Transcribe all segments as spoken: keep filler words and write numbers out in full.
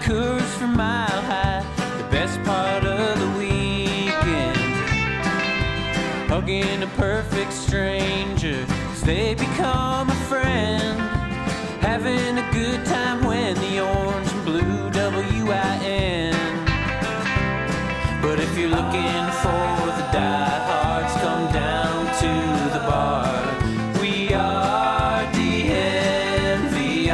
Coors from Mile High, the best part of the weekend. Hugging a perfect stranger as they become a friend. Having a good time when the orange and blue W I N. But if you're looking for the diehards, come down to the bar. We are D N V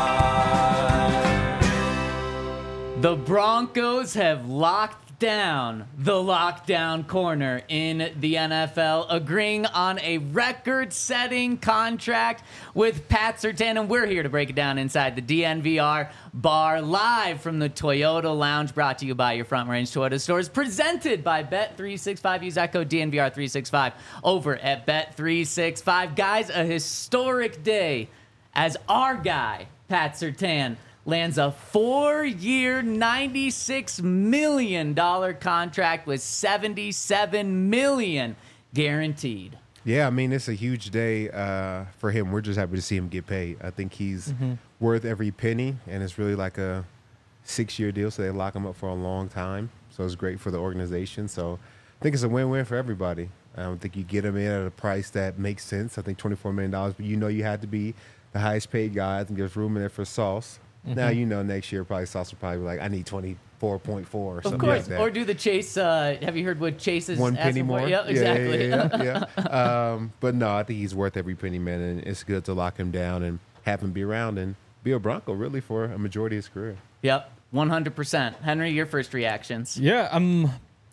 R. The Broncos have locked down the lockdown corner in the N F L, agreeing on a record-setting contract with Pat Surtain, and we're here to break it down inside the D N V R bar, live from the Toyota Lounge, brought to you by your Front Range Toyota stores, presented by Bet three sixty-five. Use that code D N V R three sixty-five over at Bet three sixty-five. Guys, a historic day as our guy, Pat Surtain, lands a four-year, ninety-six million dollars contract with seventy-seven million dollars guaranteed. Yeah, I mean, it's a huge day uh, for him. We're just happy to see him get paid. I think he's mm-hmm. worth every penny, and it's really like a six-year deal, so they lock him up for a long time. So it's great for the organization. So I think it's a win-win for everybody. I don't think you get him in at a price that makes sense. I think twenty-four million dollars, but you know you had to be the highest-paid guy. I think there's room in there for Sauce. Mm-hmm. Now, you know, next year, probably Sauce will probably be like, I need twenty-four point four or of something course. like that. Or do the Chase, uh, have you heard what Chase is One penny asking more? for? Yeah, exactly. Yeah, yeah, yeah, yeah. um, but no, I think he's worth every penny, man, and it's good to lock him down and have him be around and be a Bronco, really, for a majority of his career. Yep, one hundred percent. Henry, your first reactions? Yeah, um,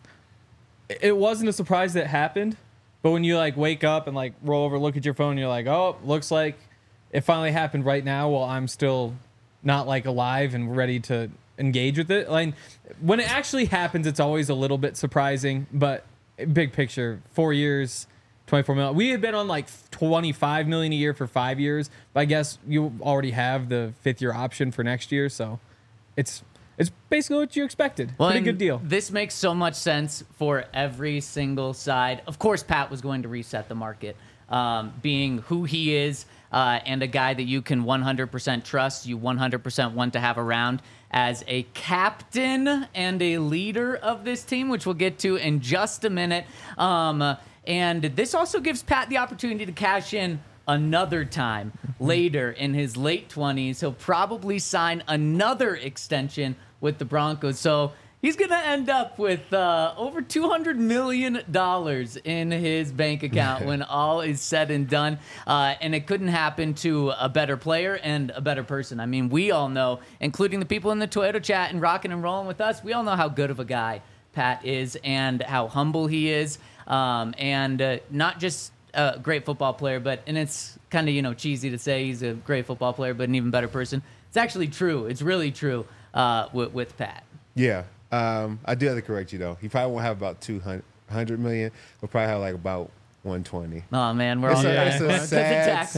it wasn't a surprise that it happened, but when you, like, wake up and, like, roll over, look at your phone, you're like, oh, looks like it finally happened right now while I'm still not like alive and ready to engage with it. Like when it actually happens, it's always a little bit surprising, but big picture, four years, twenty-four million. We had been on like twenty-five million a year for five years, but I guess you already have the fifth year option for next year. So it's, it's basically what you expected. Well, pretty good deal. This makes so much sense for every single side. Of course, Pat was going to reset the market, um, being who he is. Uh, and a guy that you can one hundred percent trust, you one hundred percent want to have around as a captain and a leader of this team, which we'll get to in just a minute. Um, and this also gives Pat the opportunity to cash in another time later in his late twenties. He'll probably sign another extension with the Broncos. So he's going to end up with uh, over two hundred million dollars in his bank account when all is said and done. Uh, and it couldn't happen to a better player and a better person. I mean, we all know, including the people in the Toyota chat and rocking and rolling with us, we all know how good of a guy Pat is and how humble he is. Um, and uh, not just a great football player, but, and it's kind of, you know, cheesy to say he's a great football player, but an even better person. It's actually true. It's really true uh, with, with Pat. Yeah. Um, I do have to correct you, though. He probably won't have about two hundred million. He'll probably have like about one twenty. Oh, man. We're it's all a, yeah. it's a sad,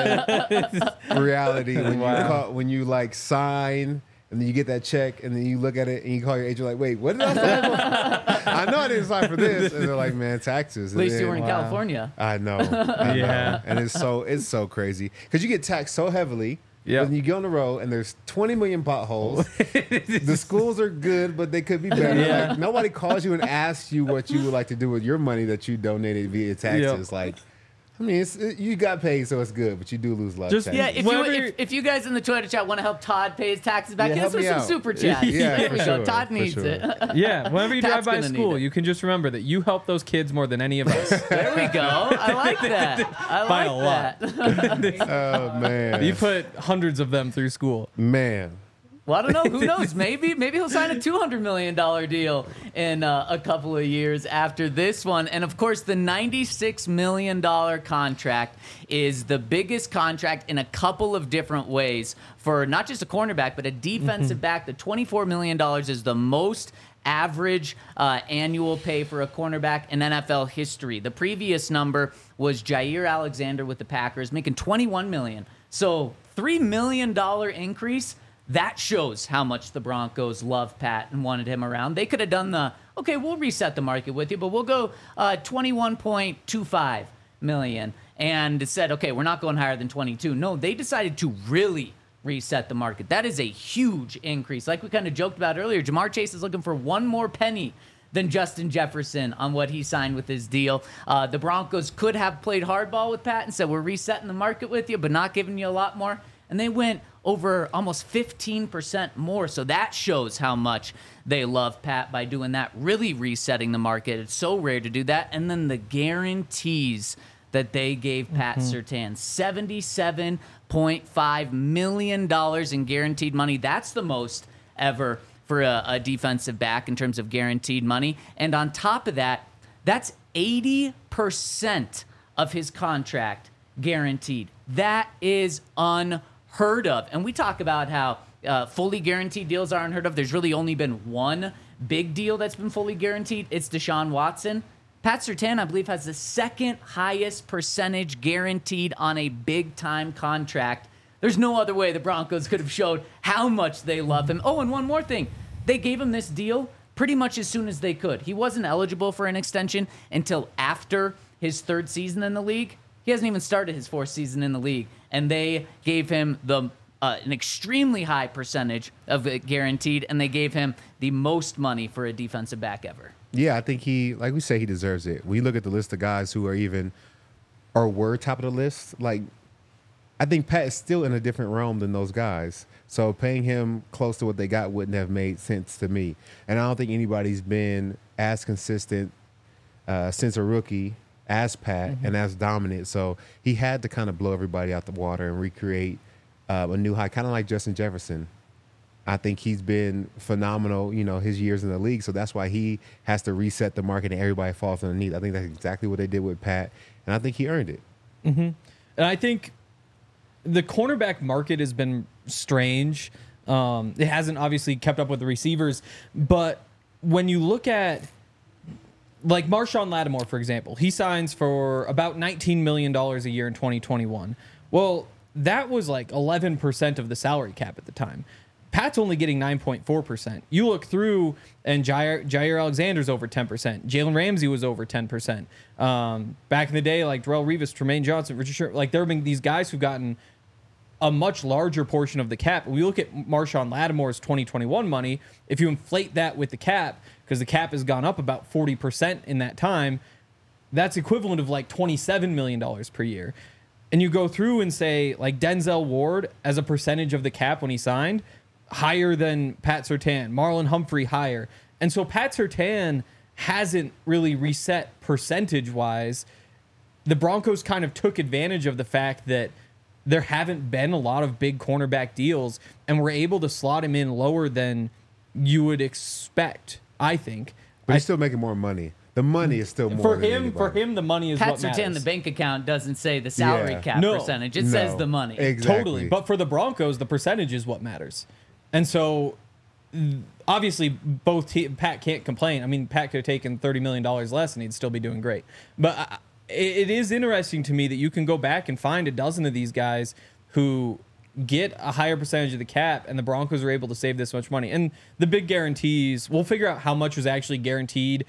sad reality when wow. you call, when you like sign and then you get that check and then you look at it and you call your agent like, wait, what did I sign for? I know I didn't sign for this. And they're like, man, taxes. At least then, you were in wow. California. I know. I yeah. know. And it's so, it's so crazy because you get taxed so heavily. Yeah. When you go on the road and there's twenty million potholes, the schools are good, but they could be better. Yeah. Like, nobody calls you and asks you what you would like to do with your money that you donated via taxes. Yep. Like, I mean, it's, it, you got paid, so it's good, but you do lose a lot Just, of taxes. Yeah, if you, if, if you guys in the Twitter chat want to help Todd pay his taxes back, yeah, hit us with some out. super chats. Yeah, there for we sure, go. Todd for needs sure. it. Yeah, whenever you drive by Pat's school, need it. you can just remember that you help those kids more than any of us. There we go. I like that. I By like a lot. that. Oh, man. You put hundreds of them through school. Man. Well, I don't know. Who knows? Maybe maybe he'll sign a two hundred million dollars deal in uh, a couple of years after this one. And, of course, the ninety-six million dollars contract is the biggest contract in a couple of different ways for not just a cornerback, but a defensive mm-hmm. back. The twenty-four million dollars is the most average uh, annual pay for a cornerback in N F L history. The previous number was Jair Alexander with the Packers, making twenty-one million dollars. So three million dollars increase. That shows how much the Broncos love Pat and wanted him around. They could have done the, okay, we'll reset the market with you, but we'll go uh, twenty-one point two five million dollars and said, okay, we're not going higher than twenty-two. No, they decided to really reset the market. That is a huge increase. Like we kind of joked about earlier, Jamar Chase is looking for one more penny than Justin Jefferson on what he signed with his deal. Uh, the Broncos could have played hardball with Pat and said, we're resetting the market with you, but not giving you a lot more. And they went over almost fifteen percent more. So that shows how much they love Pat by doing that, really resetting the market. It's so rare to do that. And then the guarantees that they gave Pat mm-hmm. Surtain, seventy-seven point five million dollars in guaranteed money. That's the most ever for a, a defensive back in terms of guaranteed money. And on top of that, that's eighty percent of his contract guaranteed. That is unheard of. And we talk about how uh, fully guaranteed deals are unheard of. There's really only been one big deal that's been fully guaranteed. It's Deshaun Watson. Pat Surtain, I believe, has the second highest percentage guaranteed on a big-time contract. There's no other way the Broncos could have showed how much they love him. Oh, and one more thing. They gave him this deal pretty much as soon as they could. He wasn't eligible for an extension until after his third season in the league. He hasn't even started his fourth season in the league. And they gave him the uh, an extremely high percentage of it guaranteed, and they gave him the most money for a defensive back ever. Yeah, I think he, like we say, he deserves it. We look at the list of guys who are even, or were top of the list. Like, I think Pat is still in a different realm than those guys. So paying him close to what they got wouldn't have made sense to me. And I don't think anybody's been as consistent uh, since a rookie as Pat mm-hmm. and as dominant. So he had to kind of blow everybody out the water and recreate uh, a new high, kind of like Justin Jefferson. I think he's been phenomenal, you know, his years in the league. So that's why he has to reset the market and everybody falls underneath. I think that's exactly what they did with Pat, and I think he earned it. Mm-hmm. And I think the cornerback market has been strange. Um, it hasn't obviously kept up with the receivers, but when you look at like Marshawn Lattimore, for example, he signs for about nineteen million dollars a year in twenty twenty-one. Well, that was like eleven percent of the salary cap at the time. Pat's only getting nine point four percent. You look through, and Jair, Jair Alexander's over ten percent. Jalen Ramsey was over ten percent. Um, back in the day, like Darrelle Revis, Tremaine Johnson, Richard Sherman, like there have been these guys who've gotten a much larger portion of the cap. We look at Marshawn Lattimore's twenty twenty-one money. If you inflate that with the cap, because the cap has gone up about forty percent in that time, that's equivalent of like twenty-seven million dollars per year. And you go through and say, like Denzel Ward, as a percentage of the cap when he signed, higher than Pat Surtain, Marlon Humphrey higher. And so Pat Surtain hasn't really reset percentage-wise. The Broncos kind of took advantage of the fact that there haven't been a lot of big cornerback deals, and were able to slot him in lower than you would expect, I think. But he's still making more money. The money is still more for than him. anybody. For him, the money is Pat what matters. Surtain, the bank account doesn't say the salary Yeah. cap No. percentage. It No. says the money. Exactly. Totally. But for the Broncos, the percentage is what matters. And so, obviously, both te- Pat can't complain. I mean, Pat could have taken thirty million dollars less and he'd still be doing great. But I, it is interesting to me that you can go back and find a dozen of these guys who get a higher percentage of the cap, and the Broncos are able to save this much money. And the big guarantees, we'll figure out how much was actually guaranteed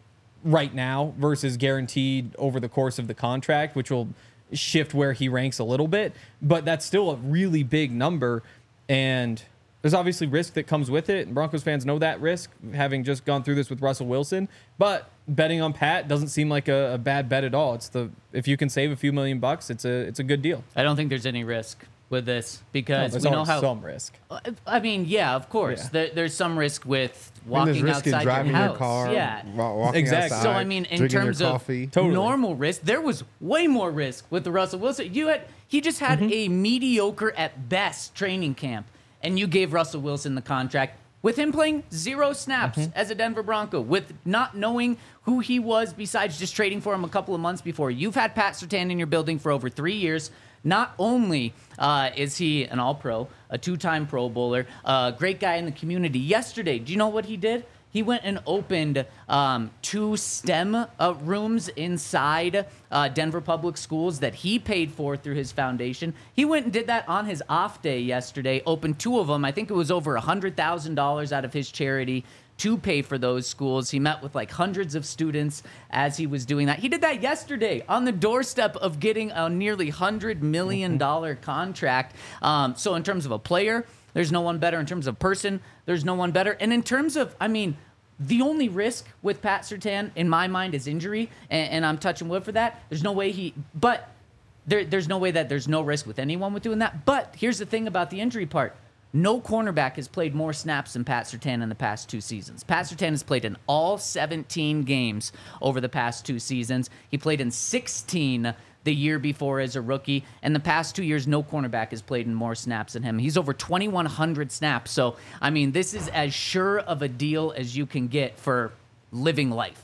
right now versus guaranteed over the course of the contract, which will shift where he ranks a little bit. But that's still a really big number, and there's obviously risk that comes with it, and Broncos fans know that risk, having just gone through this with Russell Wilson. But betting on Pat doesn't seem like a, a bad bet at all. It's the if you can save a few million bucks, it's a it's a good deal. I don't think there's any risk with this because No, there's we know always how. some risk. I mean, yeah, of course. Yeah. There, there's some risk with I mean, walking there's risk in outside driving your your, house. car, yeah. wa- walking Exactly. outside, So I mean, in drinking terms your of coffee. Totally. normal risk, there was way more risk with the Russell Wilson. You had he just had Mm-hmm. a mediocre at best training camp, and you gave Russell Wilson the contract with him playing zero snaps Mm-hmm. as a Denver Bronco, with not knowing who he was besides just trading for him a couple of months before. You've had Pat Surtain in your building for over three years. Not only uh, is he an all-pro, a two-time Pro Bowler, a great guy in the community. Yesterday, do you know what he did? He went and opened um, two STEM uh, rooms inside uh, Denver Public Schools that he paid for through his foundation. He went and did that on his off day yesterday, opened two of them. I think it was over one hundred thousand dollars out of his charity to pay for those schools. He met with like hundreds of students as he was doing that. He did that yesterday on the doorstep of getting a nearly one hundred million dollars contract. Um, so in terms of a player, there's no one better. In terms of person, there's no one better. And in terms of, I mean, the only risk with Pat Surtain, in my mind, is injury, and, and I'm touching wood for that. There's no way he, but there, there's no way that there's no risk with anyone with doing that. But here's the thing about the injury part. No cornerback has played more snaps than Pat Surtain in the past two seasons. Pat Surtain has played in all seventeen games over the past two seasons. He played in sixteen the year before as a rookie. And the past two years, no cornerback has played in more snaps than him. He's over twenty-one hundred snaps. So, I mean, this is as sure of a deal as you can get for living life.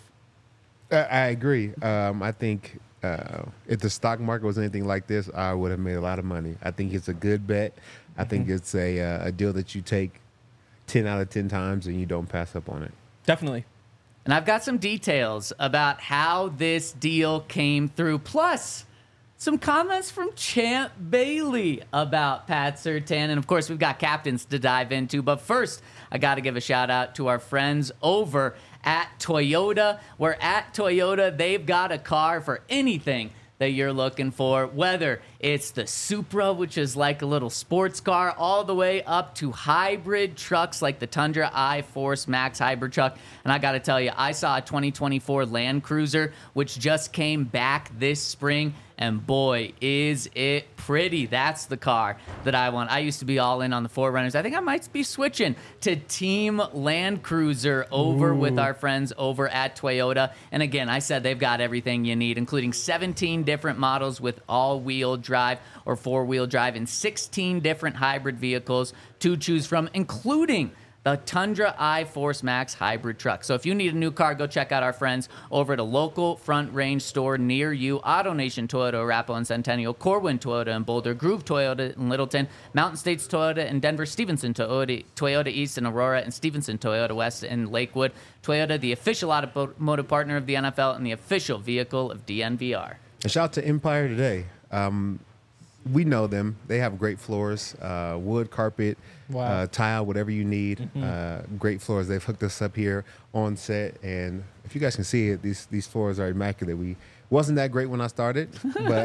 I, I agree. Um, I think uh, if the stock market was anything like this, I would have made a lot of money. I think it's a good bet. I mm-hmm. think it's a, uh, a deal that you take ten out of ten times and you don't pass up on it. Definitely. And I've got some details about how this deal came through. Plus, some comments from Champ Bailey about Pat Surtain. And, of course, we've got captains to dive into. But first, I got to give a shout-out to our friends over at Toyota. Where at Toyota, they've got a car for anything that you're looking for, whether it's the Supra, which is like a little sports car, all the way up to hybrid trucks like the Tundra iForce Max hybrid truck. And I got to tell you, I saw a twenty twenty-four Land Cruiser, which just came back this spring, and boy, is it pretty. That's the car that I want. I used to be all in on the four runners. I think I might be switching to Team Land Cruiser over Ooh. with our friends over at Toyota. And again, I said they've got everything you need, including seventeen different models with all-wheel drive or four-wheel drive and sixteen different hybrid vehicles to choose from, including the Tundra iForce Max hybrid truck. So if you need a new car, go check out our friends over at a local Front Range store near you. AutoNation Toyota, Arapahoe and Centennial, Corwin Toyota in Boulder, Groove Toyota in Littleton, Mountain States Toyota in Denver, Stevenson Toyota, Toyota East in Aurora, and Stevenson Toyota West in Lakewood. Toyota, the official automotive partner of the N F L and the official vehicle of D N V R. And shout out to Empire today. Um, we know them. They have great floors, uh, wood, carpet, wow. uh, tile, whatever you need. Mm-hmm. Uh, great floors. They've hooked us up here on set, and if you guys can see it, these these floors are immaculate. We wasn't that great when I started, but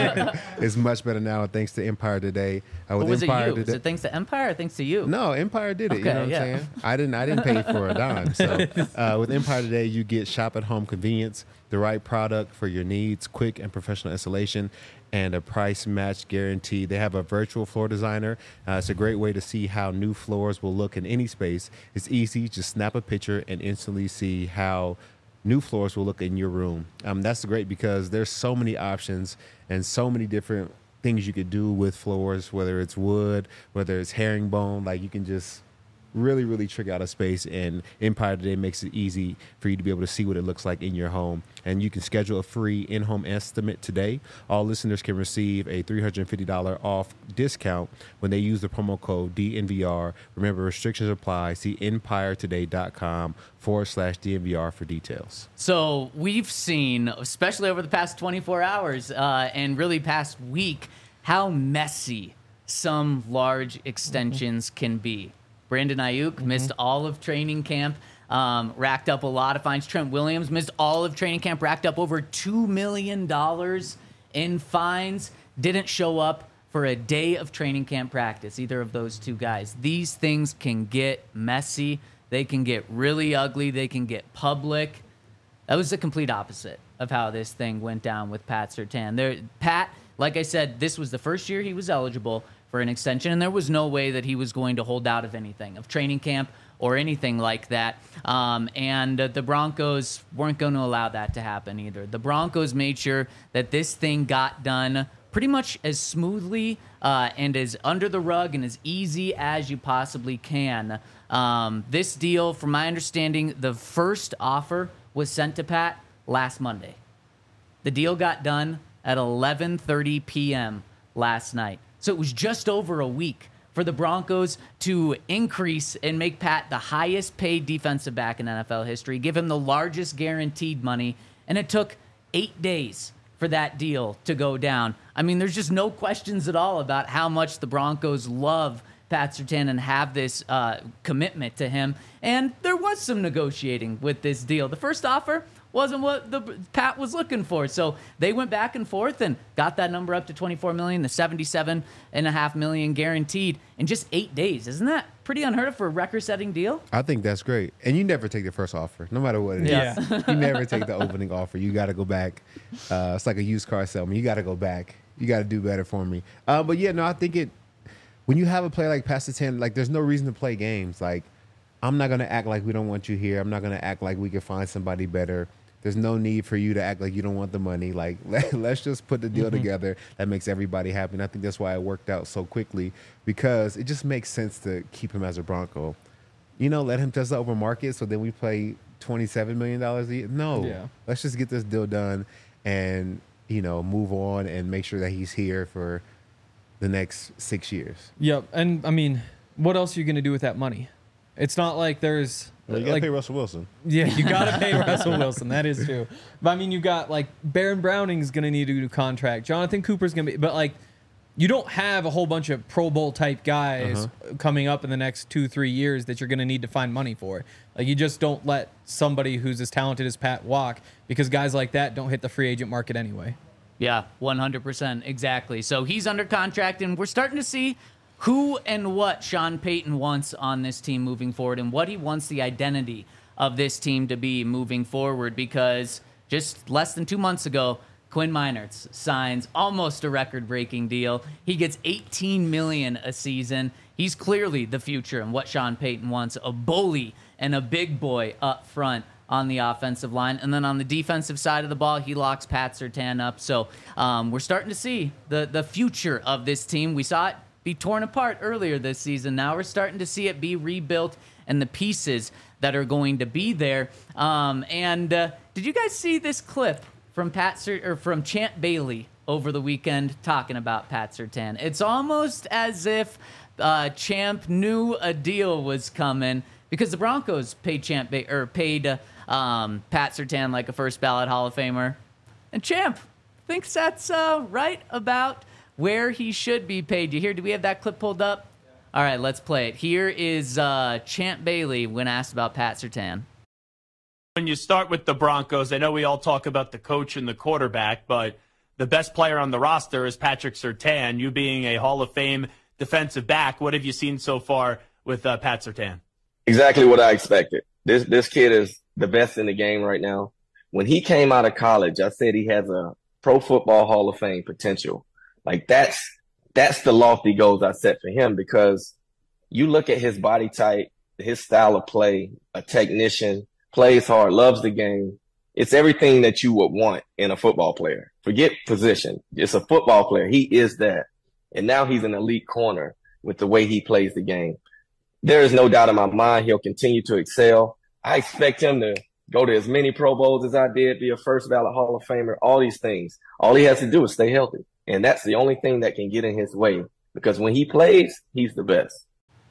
it's much better now thanks to Empire today. Uh, with was Empire it you? Today, Was it thanks to Empire or thanks to you? No, Empire did it. Okay, you know what yeah. I'm saying? I didn't. I didn't pay for a dime. So uh, with Empire today, you get shop at home convenience, the right product for your needs, quick and professional installation, and a price match guarantee. They have a virtual floor designer. Uh, it's a great way to see how new floors will look in any space. It's easy. Just snap a picture and instantly see how new floors will look in your room. Um, that's great because there's so many options and so many different things you could do with floors, whether it's wood, whether it's herringbone. Like, you can just really, really trick out a space, and Empire Today makes it easy for you to be able to see what it looks like in your home. And you can schedule a free in-home estimate today. All listeners can receive a three hundred fifty dollars off discount when they use the promo code D N V R. Remember, restrictions apply. See empiretoday.com forward slash DNVR for details. So we've seen, especially over the past twenty-four hours uh, and really past week, how messy some large extensions mm-hmm. can be. Brandon Ayuk mm-hmm. missed all of training camp, um, racked up a lot of fines. Trent Williams missed all of training camp, racked up over two million dollars in fines. Didn't show up for a day of training camp practice, either of those two guys. These things can get messy. They can get really ugly. They can get public. That was the complete opposite of how this thing went down with Pat Surtain. There, Pat, like I said, this was the first year he was eligible for an extension, and there was no way that he was going to hold out of anything, of training camp or anything like that. Um, and uh, the Broncos weren't going to allow that to happen either. The Broncos made sure that this thing got done pretty much as smoothly uh, and as under the rug and as easy as you possibly can. Um, this deal, from my understanding, the first offer was sent to Pat last Monday. The deal got done at eleven thirty p.m. last night. So it was just over a week for the Broncos to increase and make Pat the highest paid defensive back in N F L history, give him the largest guaranteed money, and it took eight days for that deal to go down. I mean, there's just no questions at all about how much the Broncos love Pat Surtain and have this uh, commitment to him. And there was some negotiating with this deal. The first offer wasn't what the Pat was looking for. So they went back and forth and got that number up to twenty-four million dollars, the seventy-seven and a half million guaranteed in just eight days. Isn't that pretty unheard of for a record-setting deal? I think that's great. And you never take the first offer, no matter what it is. Yeah. You never take the opening offer. You got to go back. Uh, it's like a used car salesman. You got to go back. You got to do better for me. Uh, but yeah, no, I think it, when you have a player like Pat Surtain, like there's no reason to play games. Like, I'm not going to act like we don't want you here. I'm not going to act like we can find somebody better. There's no need for you to act like you don't want the money. Like, let, let's just put the deal mm-hmm. together that makes everybody happy. And I think that's why it worked out so quickly, because it just makes sense to keep him as a Bronco. You know, let him test the open market so then we play twenty-seven million dollars a year. No, yeah. Let's just get this deal done and, you know, move on and make sure that he's here for the next six years. Yep. And, I mean, what else are you going to do with that money? It's not like there's... Well, you got to like, pay Russell Wilson. Yeah, you got to pay Russell Wilson. That is true. But, I mean, you got, like, Baron Browning's going to need to do contract. Jonathan Cooper's going to be... But, like, you don't have a whole bunch of Pro Bowl-type guys uh-huh. coming up in the next two, three years that you're going to need to find money for. Like, you just don't let somebody who's as talented as Pat walk, because guys like that don't hit the free agent market anyway. Yeah, one hundred percent. Exactly. So he's under contract, and we're starting to see who and what Sean Payton wants on this team moving forward and what he wants the identity of this team to be moving forward, because just less than two months ago, Quinn Meinerz signs almost a record-breaking deal. He gets eighteen million dollars a season. He's clearly the future and what Sean Payton wants, a bully and a big boy up front on the offensive line. And then on the defensive side of the ball, he locks Pat Surtain up. So um, we're starting to see the, the future of this team. We saw it be torn apart earlier this season. Now we're starting to see it be rebuilt and the pieces that are going to be there. Um, and uh, did you guys see this clip from Pat Sur- or from Champ Bailey over the weekend talking about Pat Surtain? It's almost as if uh, Champ knew a deal was coming, because the Broncos paid Champ ba- or paid uh, um, Pat Surtain like a first ballot Hall of Famer, and Champ thinks that's uh, right about where he should be paid. You hear? Do we have that clip pulled up? Yeah. All right, let's play it. Here is uh, Champ Bailey when asked about Pat Surtain. When you start with the Broncos, I know we all talk about the coach and the quarterback, but the best player on the roster is Patrick Surtain. You being a Hall of Fame defensive back, what have you seen so far with uh, Pat Surtain? Exactly what I expected. This this kid is the best in the game right now. When he came out of college, I said he has a Pro Football Hall of Fame potential. Like, that's that's the lofty goals I set for him, because you look at his body type, his style of play, a technician, plays hard, loves the game. It's everything that you would want in a football player. Forget position. It's a football player. He is that. And now he's an elite corner with the way he plays the game. There is no doubt in my mind he'll continue to excel. I expect him to go to as many Pro Bowls as I did, be a first ballot Hall of Famer, all these things. All he has to do is stay healthy. And that's the only thing that can get in his way, because when he plays, he's the best.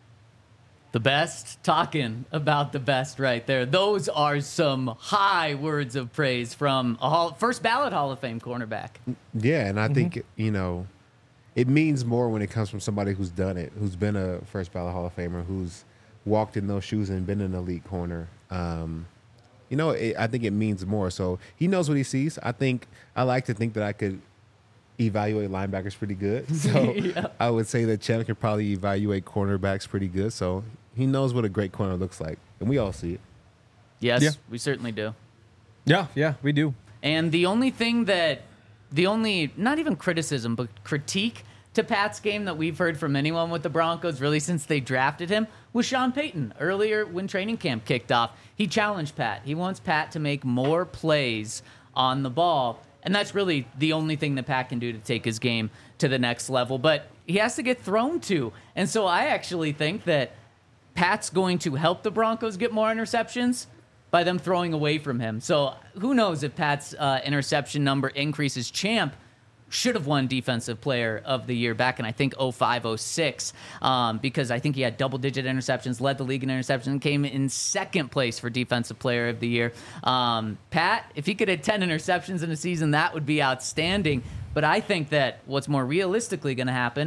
The best, talking about the best right there. Those are some high words of praise from a hall, first ballot Hall of Fame cornerback. Yeah, and I Mm-hmm. think, you know, it means more when it comes from somebody who's done it, who's been a first ballot Hall of Famer, who's walked in those shoes and been an elite corner. Um, you know, it, I think it means more. So he knows what he sees. I think I like to think that I could evaluate linebackers pretty good. So yeah. I would say that Champ can probably evaluate cornerbacks pretty good. So he knows what a great corner looks like, and we all see it. Yes, Yeah. we certainly do. Yeah, yeah, we do. And the only thing that, the only, not even criticism, but critique to Pat's game that we've heard from anyone with the Broncos really since they drafted him was Sean Payton. Earlier when training camp kicked off, he challenged Pat. He wants Pat to make more plays on the ball. And that's really the only thing that Pat can do to take his game to the next level. But he has to get thrown to. And so I actually think that Pat's going to help the Broncos get more interceptions by them throwing away from him. So who knows if Pat's uh, interception number increases. Champ should have won Defensive Player of the Year back in, I think, oh five oh six, um, because I think he had double-digit interceptions, led the league in interceptions, and came in second place for Defensive Player of the Year. Um, Pat, if he could hit ten interceptions in a season, that would be outstanding. But I think that what's more realistically going to happen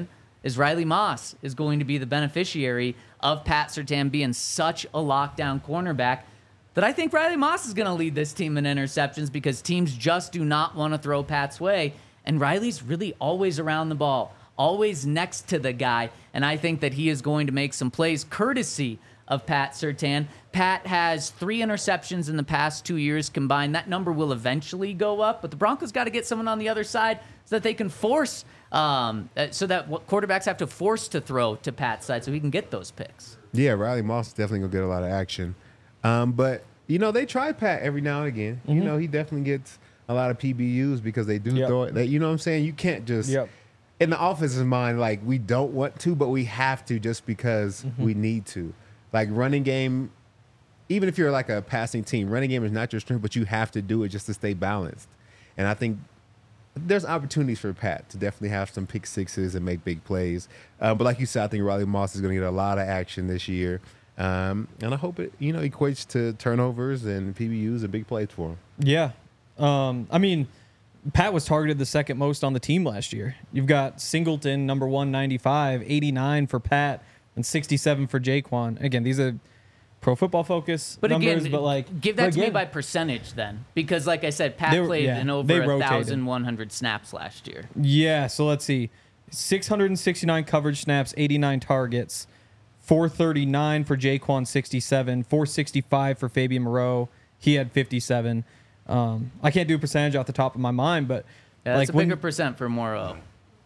is Riley Moss is going to be the beneficiary of Pat Surtain being such a lockdown cornerback that I think Riley Moss is going to lead this team in interceptions because teams just do not want to throw Pat's way. And Riley's really always around the ball, always next to the guy. And I think that he is going to make some plays courtesy of Pat Surtain. Pat has three interceptions in the past two years combined. That number will eventually go up, but the Broncos got to get someone on the other side so that they can force, um, so that quarterbacks have to force to throw to Pat's side so he can get those picks. Yeah, Riley Moss is definitely going to get a lot of action. Um, but, you know, they try Pat every now and again. Mm-hmm. You know, he definitely gets a lot of P B Us because they do yep. throw it. They, you know what I'm saying? You can't just, yep. in the offense's mind, like, we don't want to, but we have to just because mm-hmm. we need to. Like, running game, even if you're like a passing team, running game is not your strength, but you have to do it just to stay balanced. And I think there's opportunities for Pat to definitely have some pick sixes and make big plays. Uh, but like you said, I think Riley Moss is going to get a lot of action this year. Um, and I hope it, you know, equates to turnovers and P B Us and big plays for him. Yeah. Um, I mean, Pat was targeted the second most on the team last year. You've got Singleton, number one ninety-five, eighty-nine for Pat, and sixty-seven for Jaquan. Again, these are Pro Football Focus but numbers, again, but like give that to again, me by percentage then, because like I said, Pat They- played yeah, in they over a rotated. thousand one hundred snaps last year. Yeah, so let's see. six hundred sixty-nine coverage snaps, eighty-nine targets, four thirty-nine for Jaquan, sixty-seven, four sixty-five for Fabian Moreau. He had fifty-seven. Um, I can't do a percentage off the top of my mind, but Yeah, like that's a when- bigger percent for Morrow.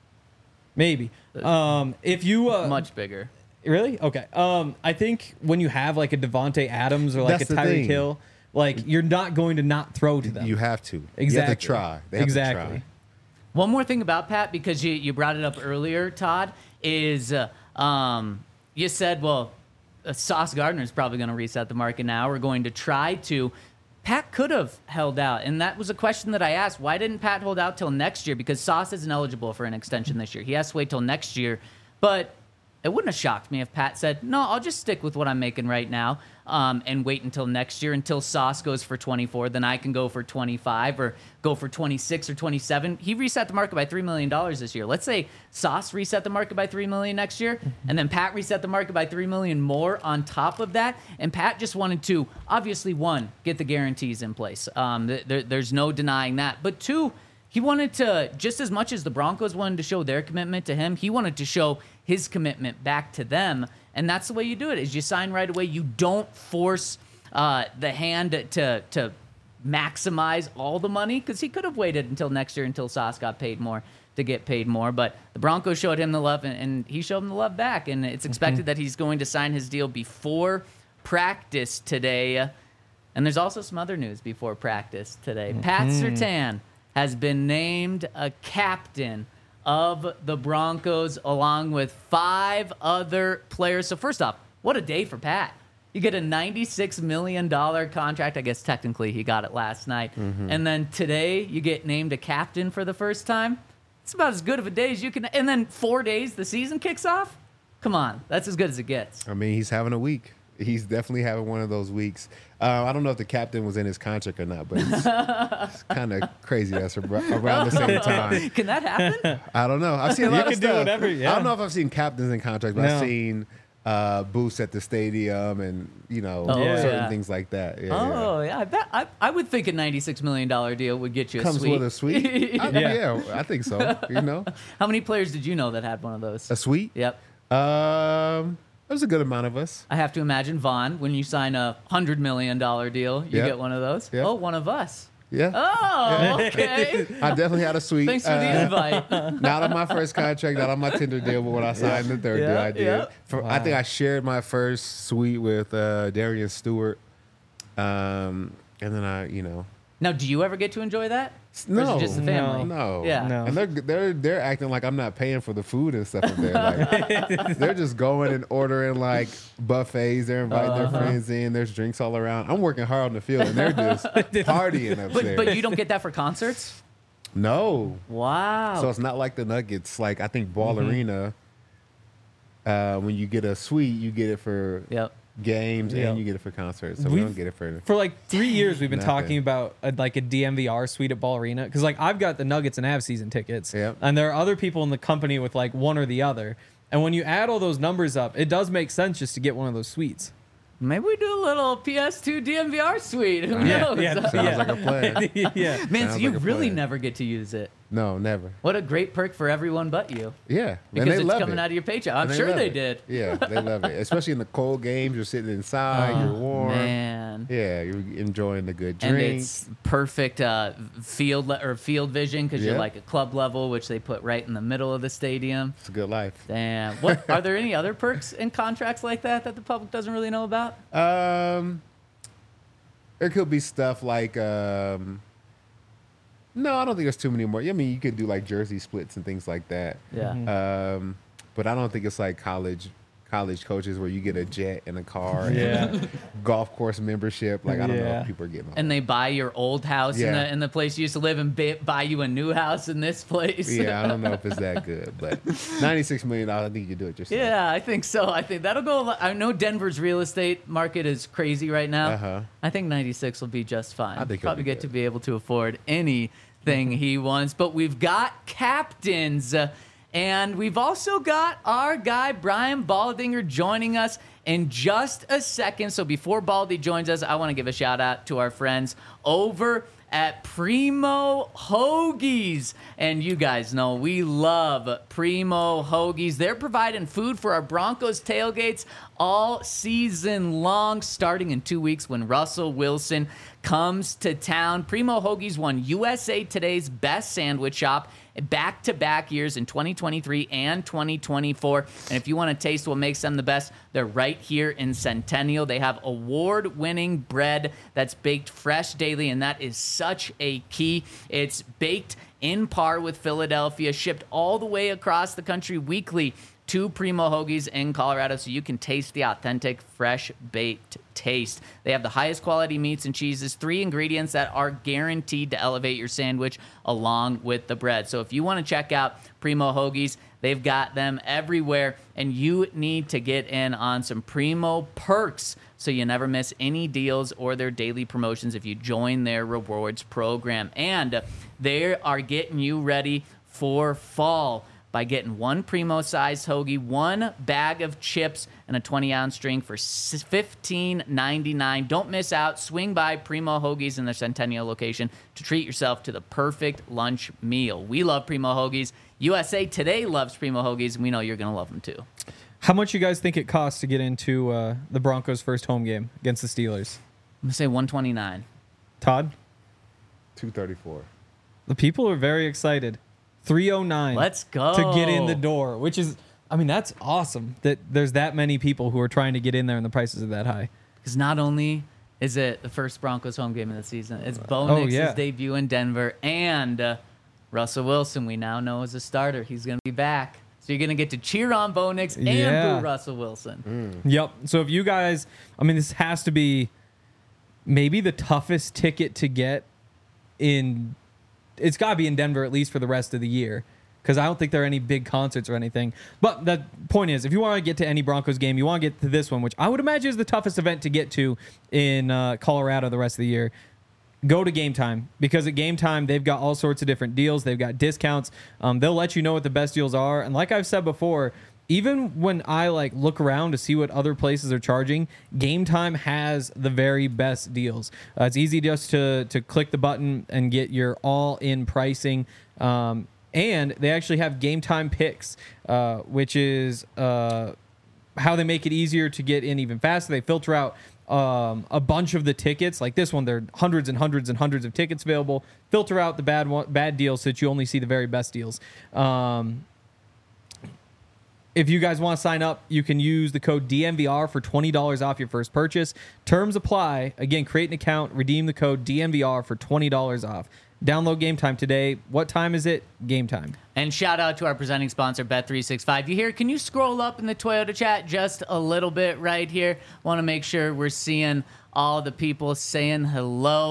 maybe. Um, if you uh, Much bigger. Really? Okay. Um, I think when you have like a Devontae Adams or like That's a the Tyreek thing. Hill, like you're not going to not throw to them. You have to. exactly. You have to try. They have exactly. to try. One more thing about Pat, because you, you brought it up earlier, Todd, is uh, um, you said, well, uh, Sauce Gardner is probably going to reset the market now. We're going to try to. Pat could have held out, and that was a question that I asked. Why didn't Pat hold out till next year? Because Sauce isn't eligible for an extension this year. He has to wait till next year. But it wouldn't have shocked me if Pat said, no, I'll just stick with what I'm making right now um, and wait until next year, until Sauce goes for twenty-four. Then I can go for twenty-five or go for twenty-six or twenty-seven. He reset the market by three million dollars this year. Let's say Sauce reset the market by three million dollars next year, and then Pat reset the market by three million dollars more on top of that. And Pat just wanted to, obviously, one, get the guarantees in place. Um, th- there, there's no denying that. But two, he wanted to, just as much as the Broncos wanted to show their commitment to him, he wanted to show his commitment back to them. And that's the way you do it, is you sign right away. You don't force uh, the hand to to maximize all the money, because he could have waited until next year until Sauce got paid more to get paid more. But the Broncos showed him the love, and, and he showed him the love back. And it's expected mm-hmm. that he's going to sign his deal before practice today. And there's also some other news before practice today. Mm-hmm. Pat Surtain has been named a captain of the Broncos, along with five other players. So first off, what a day for Pat. You get a ninety-six million dollars contract. I guess technically he got it last night. Mm-hmm. And then today you get named a captain for the first time. It's about as good of a day as you can. And then four days, the season kicks off? Come on. That's as good as it gets. I mean, he's having a week. He's definitely having one of those weeks. Uh, I don't know if the captain was in his contract or not, but it's, it's kind of crazy that's around the same time. Can that happen? I don't know. I've seen a You lot can of do stuff. whatever, yeah. I don't know if I've seen captains in contracts, but No. I've seen uh, booths at the stadium and, you know, Oh, certain yeah. things like that. Yeah, Oh, yeah. I bet I, I would think a ninety-six million dollars deal would get you a Comes suite. with a suite? I, Yeah. yeah, I think so. You know, How many players did you know that had one of those? a suite? Yep. Um, there's a good amount of us. I have to imagine, Vaughn, when you sign a one hundred million dollars deal, you Yep. get one of those. Yep. Oh, one of us. Yeah. Oh, okay. I definitely had a suite. Thanks for the Uh, invite. Not on my first contract, not on my Tinder deal, but when I signed the third deal, Yeah, I did. yeah. For, I think I shared my first suite with uh, Darian Stewart. Um, and then I, you know, Now, do you ever get to enjoy that? Or is no, it just the family? no, Yeah. No. And they're they're they're acting like I'm not paying for the food and stuff up there. Like, they're just going and ordering like buffets. They're inviting Uh-huh. their friends in. There's drinks all around. I'm working hard on the field, and they're just partying But, upstairs. but you don't get that for concerts? no, Wow. so it's not like the Nuggets. Like I think Ball Mm-hmm. Arena, uh, when you get a suite, you get it for Yep. games, Yeah. and you get it for concerts. So we We've- don't get it for. For like three years, we've been Nothing. talking about a, like a D M V R suite at Ball Arena because like I've got the Nuggets and Avs season tickets, Yep. and there are other people in the company with like one or the other. And when you add all those numbers up, it does make sense just to get one of those suites. Maybe we do a little P S two D M V R suite. Who Yeah, knows? yeah, Sounds yeah. like a plan. yeah. Man, so Sounds you like a really plan. never get to use it. No, never. What a great perk for everyone but you. Yeah, Because and they it's love coming it. out of your paycheck. I'm And sure love they it. did. Yeah, they love it, especially in the cold games. You're sitting inside, you're warm. Man. Yeah, you're enjoying the good And drink. it's perfect uh, field le- or field vision because you're Yeah. like a club level, which they put right in the middle of the stadium. It's a good life. Damn. What are there any other perks in contracts like that that the public doesn't really know about? Um, there could be stuff like um. No, I don't think there's too many more. I mean, you could do like jersey splits and things like that. Yeah. Um, but I don't think it's like college college coaches where you get a jet and a car Yeah. and golf course membership. Like I don't know Yeah. if people are getting all And they buy your old house in Yeah. the in the place you used to live and ba- buy you a new house in this place. Yeah, I don't know if it's that good, but ninety-six million dollars, I think you can do it yourself. Yeah, I think so. I think that'll go. a lot- I know Denver's real estate market is crazy right now. Uh-huh. I think ninety-six will be just fine. I think he'll probably be get good. to be able to afford anything he wants. But we've got captains, uh, and we've also got our guy Brian Baldinger joining us in just a second. So before Baldy joins us, I want to give a shout out to our friends over at Primo Hoagies. And you guys know we love Primo Hoagies. They're providing food for our Broncos tailgates all season long, starting in two weeks when Russell Wilson comes to town. Primo Hoagies won U S A Today's Best Sandwich Shop back-to-back years in twenty twenty-three and twenty twenty-four. And if you want to taste what makes them the best, they're right here in Centennial. They have award-winning bread that's baked fresh daily, and that is such a key. It's baked in par with Philadelphia, shipped all the way across the country weekly to Primo Hoagies in Colorado so you can taste the authentic, fresh baked taste. They have the highest quality meats and cheeses, three ingredients that are guaranteed to elevate your sandwich along with the bread. So if you want to check out Primo Hoagies, they've got them everywhere, and you need to get in on some Primo perks so you never miss any deals or their daily promotions if you join their rewards program. And they are getting you ready for fall by getting one Primo-sized hoagie, one bag of chips, and a twenty-ounce drink for fifteen ninety-nine. Don't miss out. Swing by Primo Hoagies in their Centennial location to treat yourself to the perfect lunch meal. We love Primo Hoagies. U S A Today loves Primo Hoagies, and we know you're going to love them too. How much you guys think it costs to get into uh, the Broncos' first home game against the Steelers? I'm going to say one twenty-nine. Todd? two thirty-four. The people are very excited. three oh nine. Let's go. To get in the door, which is, I mean, that's awesome that there's that many people who are trying to get in there and the prices are that high. Because not only is it the first Broncos home game of the season, it's Bo Oh, Nix's yeah. debut in Denver, and uh, Russell Wilson, we now know is a starter. He's going to be back. So you're going to get to cheer on Bo Nix and Yeah. boo Russell Wilson. Yep. So if you guys, I mean, this has to be maybe the toughest ticket to get in. It's got to be in Denver at least for the rest of the year because I don't think there are any big concerts or anything. But the point is, if you want to get to any Broncos game, you want to get to this one, which I would imagine is the toughest event to get to in uh, Colorado the rest of the year. Go to Game Time, because at Game Time, they've got all sorts of different deals. They've got discounts. Um, they'll let you know what the best deals are. And like I've said before, even when I like look around to see what other places are charging, Game Time has the very best deals. Uh, it's easy just to to click the button and get your all-in pricing. Um, and they actually have Game Time picks, uh, which is uh, how they make it easier to get in even faster. They filter out um, a bunch of the tickets. Like this one, there are hundreds and hundreds and hundreds of tickets available. Filter out the bad one, bad deals so that you only see the very best deals. Um, If you guys want to sign up, you can use the code D M V R for twenty dollars off your first purchase. Terms apply. Again, create an account, redeem the code D M V R for twenty dollars off. Download Game Time today. What time is it? Game Time. And shout out to our presenting sponsor, Bet three sixty-five. You hear, can you scroll up in the Toyota chat just a little bit right here? Want to make sure we're seeing all the people saying hello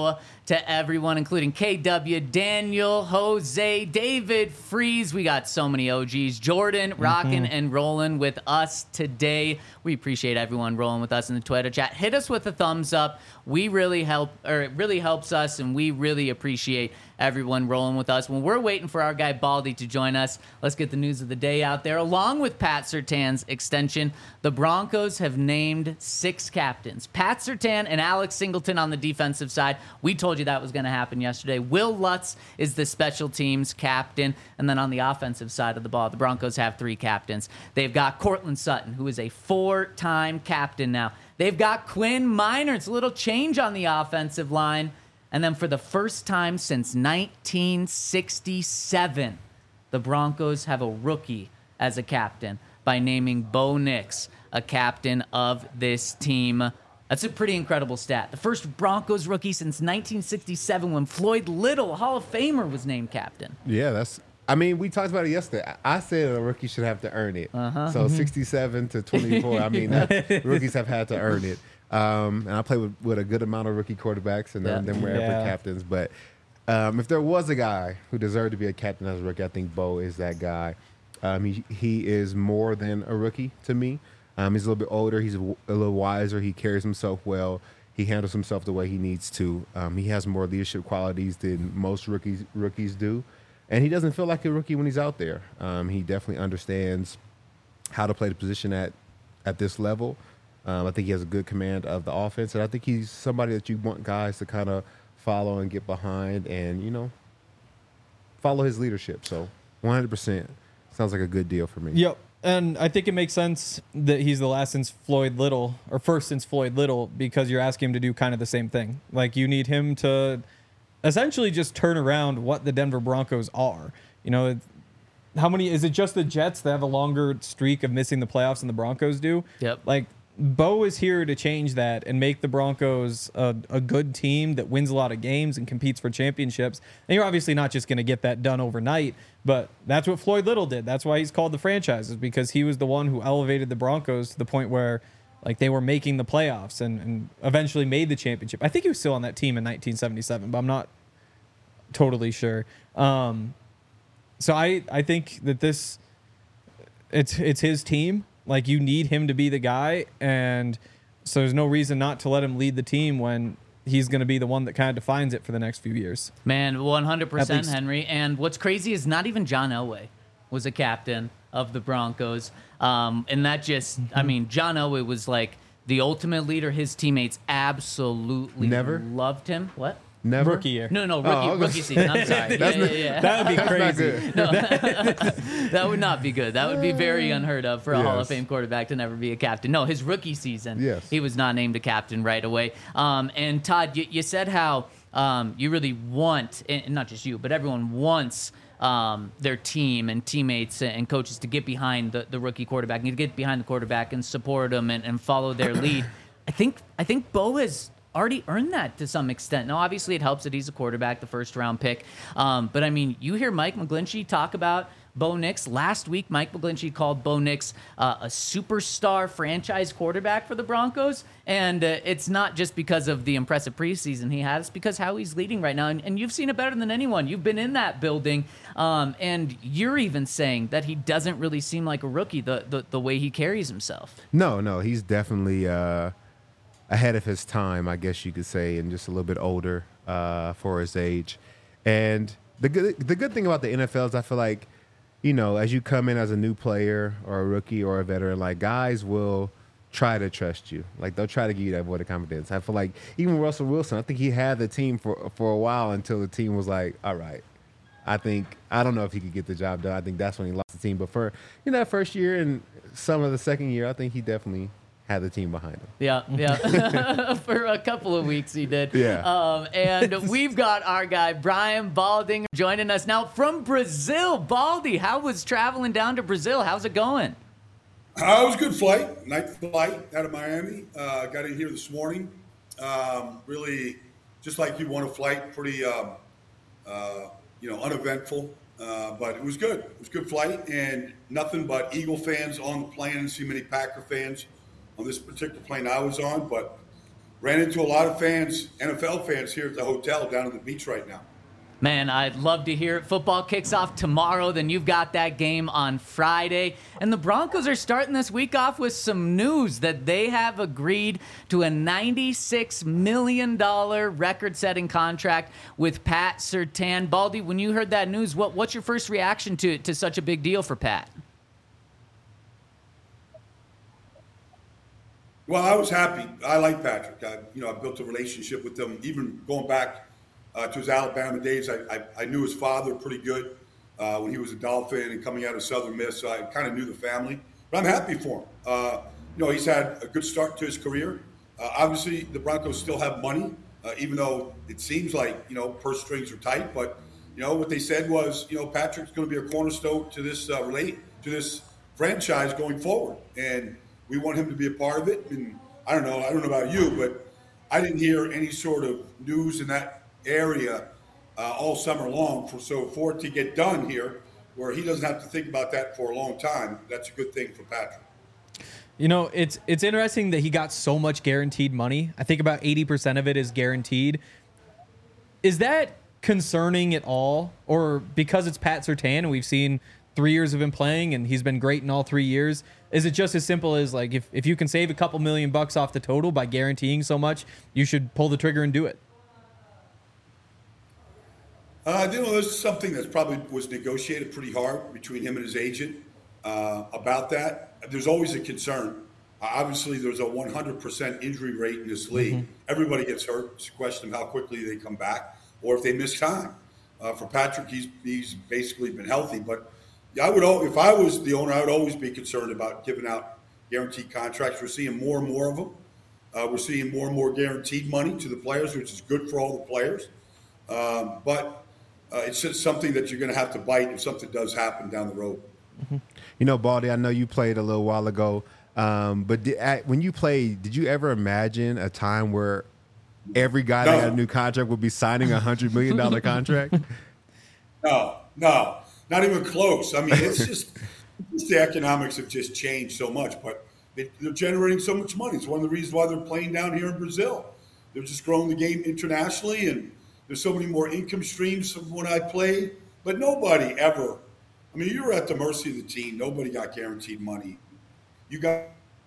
to everyone, including K W, Daniel, Jose, David, Freeze. We got so many O Gs. Jordan, rocking mm-hmm. and rolling with us today. We appreciate everyone rolling with us in the Twitter chat. Hit us with a thumbs up. We really help, or it really helps us, and we really appreciate everyone rolling with us. When we're waiting for our guy Baldy to join us, let's get the news of the day out there. Along with Pat Surtain's extension, the Broncos have named six captains. Pat Surtain and Alex Singleton on the defensive side. We told you that was going to happen yesterday. Will Lutz is the special teams captain. And then on the offensive side of the ball, the Broncos have three captains. They've got Cortland Sutton, who is a four-time captain now. They've got Quinn Minor. It's a little change on the offensive line. And then for the first time since nineteen sixty-seven, the Broncos have a rookie as a captain by naming Bo Nix a captain of this team. That's a pretty incredible stat. The first Broncos rookie since nineteen sixty-seven when Floyd Little, a Hall of Famer, was named captain. Yeah, that's... I mean, we talked about it yesterday. I said a rookie should have to earn it. Uh-huh. So mm-hmm. sixty-seven to twenty-four, I mean, that, rookies have had to earn it. Um, and I play with, with a good amount of rookie quarterbacks, and then, yeah. then we're ever yeah. captains. But um, if there was a guy who deserved to be a captain as a rookie, I think Bo is that guy. Um, he he is more than a rookie to me. Um, he's a little bit older. He's a, a little wiser. He carries himself well. He handles himself the way he needs to. Um, he has more leadership qualities than most rookies rookies do. And he doesn't feel like a rookie when he's out there. Um, he definitely understands how to play the position at, at this level. Um, I think he has a good command of the offense, and I think he's somebody that you want guys to kind of follow and get behind and, you know, follow his leadership. So one hundred percent sounds like a good deal for me. Yep, and I think it makes sense that he's the last since Floyd Little, or first since Floyd Little, because you're asking him to do kind of the same thing. Like, you need him to essentially just turn around what the Denver Broncos are. You know, how many, is it just the Jets that have a longer streak of missing the playoffs than the Broncos do? Yep. Like, Bo is here to change that and make the Broncos a, a good team that wins a lot of games and competes for championships. And you're obviously not just going to get that done overnight, but that's what Floyd Little did. That's why he's called the franchise, is because he was the one who elevated the Broncos to the point where, like, they were making the playoffs and, and eventually made the championship. I think he was still on that team in nineteen seventy-seven, but I'm not totally sure. Um, so I, I think that this, it's it's his team. Like, you need him to be the guy, and so there's no reason not to let him lead the team when he's going to be the one that kind of defines it for the next few years. Man, one hundred percent, Henry. And what's crazy is not even John Elway was a captain of the Broncos. Um, and that just, mm-hmm. I mean, John Elway was like the ultimate leader. His teammates absolutely Never? loved him. What? Never? Rookie year. No, no, rookie, oh, rookie season. I'm sorry. yeah, yeah, yeah. That would be crazy. No, that would not be good. That would be very unheard of for a yes. Hall of Fame quarterback to never be a captain. No, his rookie season, yes. he was not named a captain right away. Um, and Todd, you, you said how um, you really want, and not just you, but everyone wants um, their team and teammates and coaches to get behind the, the rookie quarterback and to get behind the quarterback and support them and, and follow their lead. I think I think Bo has already earned that to some extent. Now, obviously, it helps that he's a quarterback, the first-round pick. Um, but, I mean, you hear Mike McGlinchey talk about Bo Nix. Last week, Mike McGlinchey called Bo Nix uh, a superstar franchise quarterback for the Broncos. And uh, it's not just because of the impressive preseason he had. It's because how he's leading right now. And, and you've seen it better than anyone. You've been in that building. Um, and you're even saying that he doesn't really seem like a rookie, the, the, the way he carries himself. No, no, he's definitely uh... – ahead of his time, I guess you could say, and just a little bit older uh, for his age. And the good the good thing about the N F L is I feel like, you know, as you come in as a new player or a rookie or a veteran, like, guys will try to trust you. Like, they'll try to give you that vote of confidence. I feel like even Russell Wilson, I think he had the team for for a while until the team was like, all right, I think, I don't know if he could get the job done. I think that's when he lost the team. But for, you know, that first year and some of the second year, I think he definitely had the team behind him. Yeah, yeah. For a couple of weeks he did. Yeah. Um, and we've got our guy, Brian Balding, joining us now from Brazil. Baldy, how was traveling down to Brazil? How's it going? Uh, it was a good flight, night flight out of Miami. Uh, got in here this morning. Um, really, just like you want a flight, pretty, um, uh, you know, uneventful. Uh, but it was good. It was a good flight, and nothing but Eagle fans on the plane. I didn't see many Packer fans on this particular plane I was on, but ran into a lot of fans, N F L fans here at the hotel down at the beach right now. Man, I'd love to hear it. Football kicks off tomorrow, then you've got that game on Friday. And the Broncos are starting this week off with some news that they have agreed to a ninety-six million dollars record-setting contract with Pat Surtain. Baldy, when you heard that news, what, what's your first reaction to, to such a big deal for Pat? Well, I was happy. I like Patrick. I, you know, I built a relationship with him, even going back Uh, to his Alabama days. I, I, I knew his father pretty good uh, when he was a Dolphin and coming out of Southern Miss, so I kind of knew the family. But I'm happy for him. Uh, you know, he's had a good start to his career. Uh, obviously, the Broncos still have money, uh, even though it seems like, you know, purse strings are tight. But, you know, what they said was, you know, Patrick's going to be a cornerstone to this uh, relate to this franchise going forward. And we want him to be a part of it. And I don't know, I don't know about you, but I didn't hear any sort of news in that area uh, all summer long. For so for it to get done here, where he doesn't have to think about that for a long time, that's a good thing for Patrick. You know, it's it's interesting that he got so much guaranteed money. I think about eighty percent of it is guaranteed. Is that concerning at all? Or because it's Pat Surtain and we've seen three years of him playing and he's been great in all three years, is it just as simple as like if, if you can save a couple million bucks off the total by guaranteeing so much, you should pull the trigger and do it? Uh, you know, there's something that probably was negotiated pretty hard between him and his agent uh, about that. There's always a concern. Uh, obviously, there's a one hundred percent injury rate in this league. Mm-hmm. Everybody gets hurt. It's a question of how quickly they come back or if they miss time. Uh, for Patrick, he's he's basically been healthy. But I would, if I was the owner, I would always be concerned about giving out guaranteed contracts. We're seeing more and more of them. Uh, we're seeing more and more guaranteed money to the players, which is good for all the players. Um, but Uh, it's just something that you're going to have to bite if something does happen down the road. Mm-hmm. You know, Baldy, I know you played a little while ago, um, but did, at, when you played, did you ever imagine a time where every guy no. that had a new contract would be signing a one hundred million dollars contract? No, no, not even close. I mean, it's just it's the economics have just changed so much, but they, they're generating so much money. It's one of the reasons why they're playing down here in Brazil. They're just growing the game internationally, and there's so many more income streams from when I played, but nobody ever, I mean, you were at the mercy of the team. Nobody got guaranteed money. You got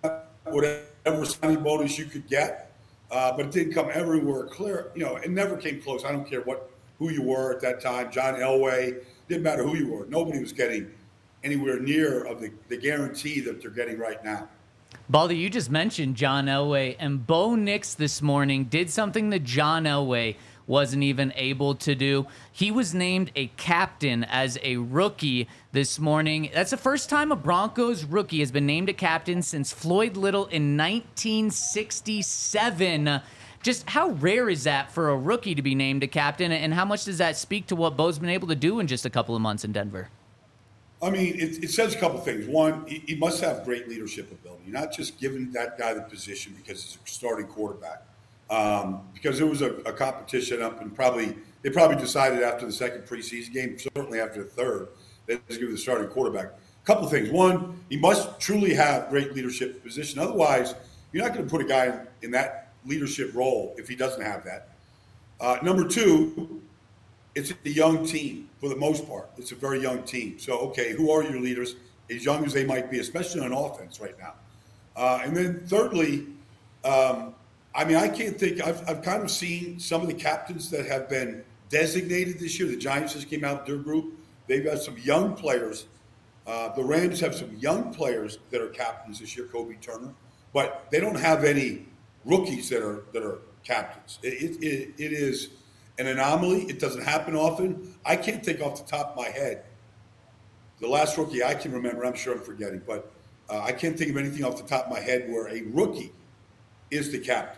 whatever signing bonus you could get, uh, but it didn't come everywhere clear. You know, it never came close. I don't care what who you were at that time. John Elway, didn't matter who you were. Nobody was getting anywhere near of the, the guarantee that they're getting right now. Baldy, you just mentioned John Elway, and Bo Nix this morning did something that John Elway wasn't even able to do. He was named a captain as a rookie this morning. That's the first time a Broncos rookie has been named a captain since Floyd Little in nineteen sixty-seven. Just how rare is that for a rookie to be named a captain, and how much does that speak to what Bo's been able to do in just a couple of months in Denver? I mean, it, it says a couple of things. One, he, he must have great leadership ability. You're not just giving that guy the position because he's a starting quarterback. Um, because there was a, a competition up, and probably they probably decided after the second preseason game, certainly after the third, that they give the starting quarterback. A couple of things. One, he must truly have great leadership position. Otherwise, you're not going to put a guy in, in that leadership role if he doesn't have that. Uh, number two, it's a young team for the most part. It's a very young team. So, okay, who are your leaders? As young as they might be, especially on offense right now. Uh, and then thirdly, um, I mean, I can't think. I've, I've kind of seen some of the captains that have been designated this year. The Giants just came out with their group. They've got some young players. Uh, the Rams have some young players that are captains this year, Kobe Turner, but they don't have any rookies that are that are captains. It, it, it is an anomaly. It doesn't happen often. I can't think off the top of my head. The last rookie I can remember, I'm sure I'm forgetting, but uh, I can't think of anything off the top of my head where a rookie is the captain.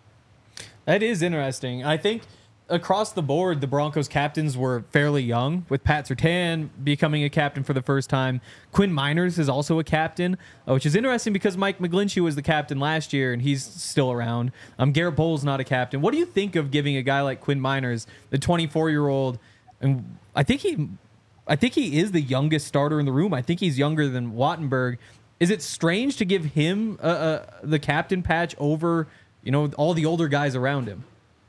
That is interesting. I think across the board, the Broncos captains were fairly young, with Pat Surtain becoming a captain for the first time. Quinn Miners is also a captain, uh, which is interesting because Mike McGlinchey was the captain last year, and he's still around. Um, Garrett Bowles not a captain. What do you think of giving a guy like Quinn Miners, the twenty-four-year-old, and I think he, I think he is the youngest starter in the room. I think he's younger than Wattenberg. Is it strange to give him uh, uh, the captain patch over you know, all the older guys around him?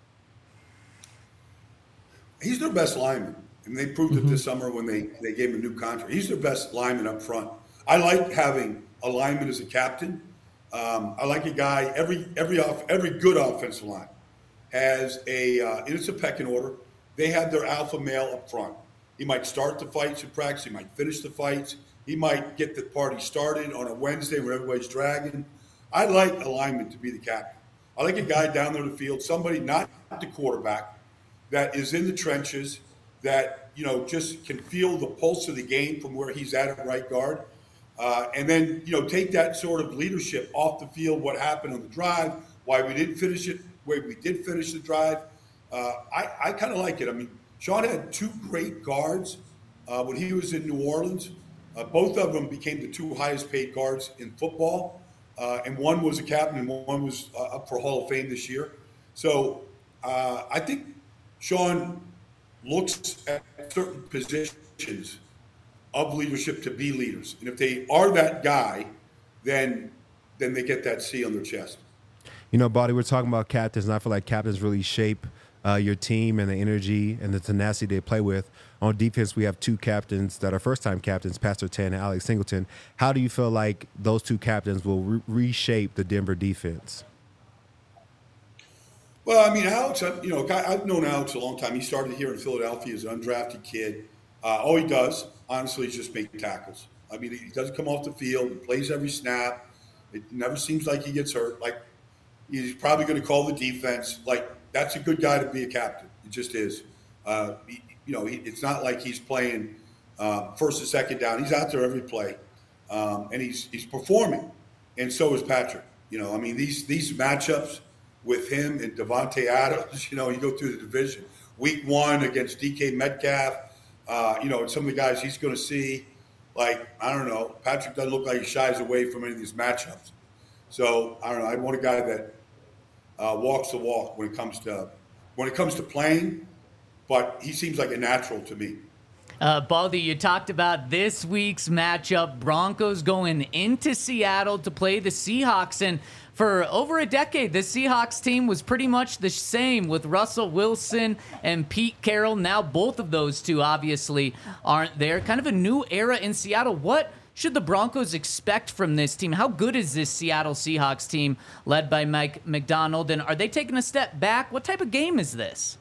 He's their best lineman. And they proved mm-hmm. it this summer when they, they gave him a new contract. He's their best lineman up front. I like having a lineman as a captain. Um, I like a guy, every every off, every good offensive line has a, uh, and it's a pecking order. They have their alpha male up front. He might start the fights in practice. He might finish the fights. He might get the party started on a Wednesday when everybody's dragging. I like a lineman to be the captain. I like a guy down there in the field, somebody not the quarterback, that is in the trenches, that, you know, just can feel the pulse of the game from where he's at at right guard. Uh, and then, you know, take that sort of leadership off the field, what happened on the drive, why we didn't finish it, why we did finish the drive. Uh, I, I kind of like it. I mean, Sean had two great guards uh, when he was in New Orleans. Uh, both of them became the two highest paid guards in football. Uh, and one was a captain and one was uh, up for Hall of Fame this year. So uh, I think Sean looks at certain positions of leadership to be leaders. And if they are that guy, then then they get that C on their chest. You know, Baldy, we're talking about captains, and I feel like captains really shape uh, your team and the energy and the tenacity they play with. On defense, we have two captains that are first-time captains, Pat Surtain and Alex Singleton. How do you feel like those two captains will re- reshape the Denver defense? Well, I mean, Alex, you know, I've known Alex a long time. He started here in Philadelphia as an undrafted kid. Uh, all he does, honestly, is just make tackles. I mean, he doesn't come off the field. He plays every snap. It never seems like he gets hurt. Like, he's probably going to call the defense. Like, that's a good guy to be a captain. It just is. Uh, he, you know, he, it's not like he's playing uh, first and second down. He's out there every play, um, and he's he's performing. And so is Patrick. You know, I mean, these these matchups with him and Devontae Adams, you know, you go through the division. Week one against D K Metcalf, uh, you know, and some of the guys he's going to see. Like, I don't know, Patrick doesn't look like he shies away from any of these matchups. So, I don't know, I want a guy that uh, walks the walk when it comes to when it comes to playing, but he seems like a natural to me. Uh, Baldy, you talked about this week's matchup. Broncos going into Seattle to play the Seahawks. And for over a decade, the Seahawks team was pretty much the same with Russell Wilson and Pete Carroll. Now both of those two obviously aren't there. Kind of a new era in Seattle. What should the Broncos expect from this team? How good is this Seattle Seahawks team led by Mike Macdonald? And are they taking a step back? What type of game is this?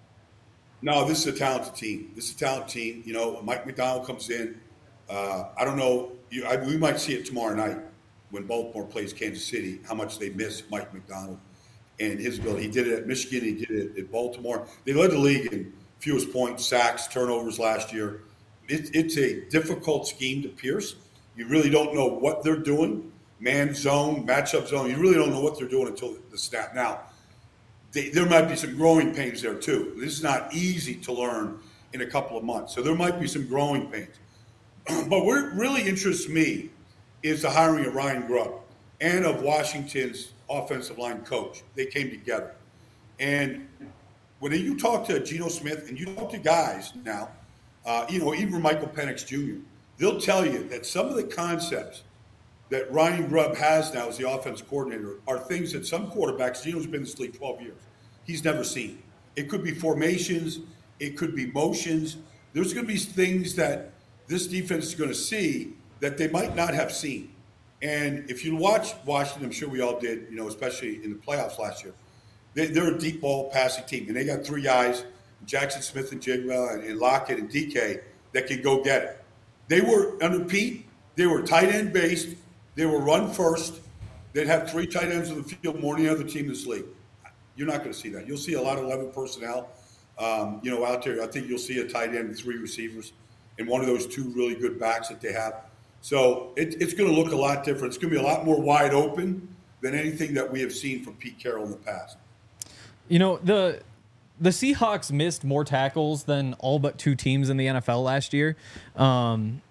No, this is a talented team. This is a talented team. You know, Mike Macdonald comes in. Uh, I don't know. You, I, we might see it tomorrow night when Baltimore plays Kansas City, how much they miss Mike Macdonald and his ability. He did it at Michigan. He did it at Baltimore. They led the league in fewest points, sacks, turnovers last year. It, it's a difficult scheme to pierce. You really don't know what they're doing. Man zone, matchup zone. You really don't know what they're doing until the snap. Now, They, there might be some growing pains there too. This is not easy to learn in a couple of months. So there might be some growing pains. But what really interests me is the hiring of Ryan Grubb and of Washington's offensive line coach. They came together. And when you talk to Geno Smith and you talk to guys now, uh, you know, even Michael Penix Junior, they'll tell you that some of the concepts that Ryan Grubb has now as the offense coordinator are things that some quarterbacks, Geno's been in this league twelve years, he's never seen. It could be formations. It could be motions. There's going to be things that this defense is going to see that they might not have seen. And if you watch Washington, I'm sure we all did, you know, especially in the playoffs last year, they, they're a deep ball passing team. And they got three guys, Jackson Smith and Jigwell and, and Lockett and D K, that can go get it. They were, under Pete, they were tight end based. They were run first. They'd have three tight ends on the field more than any other team in this league. You're not going to see that. You'll see a lot of eleven personnel, um, you know, out there. I think you'll see a tight end and three receivers and one of those two really good backs that they have. So it, it's going to look a lot different. It's going to be a lot more wide open than anything that we have seen from Pete Carroll in the past. You know, the the Seahawks missed more tackles than all but two teams in the N F L last year. Um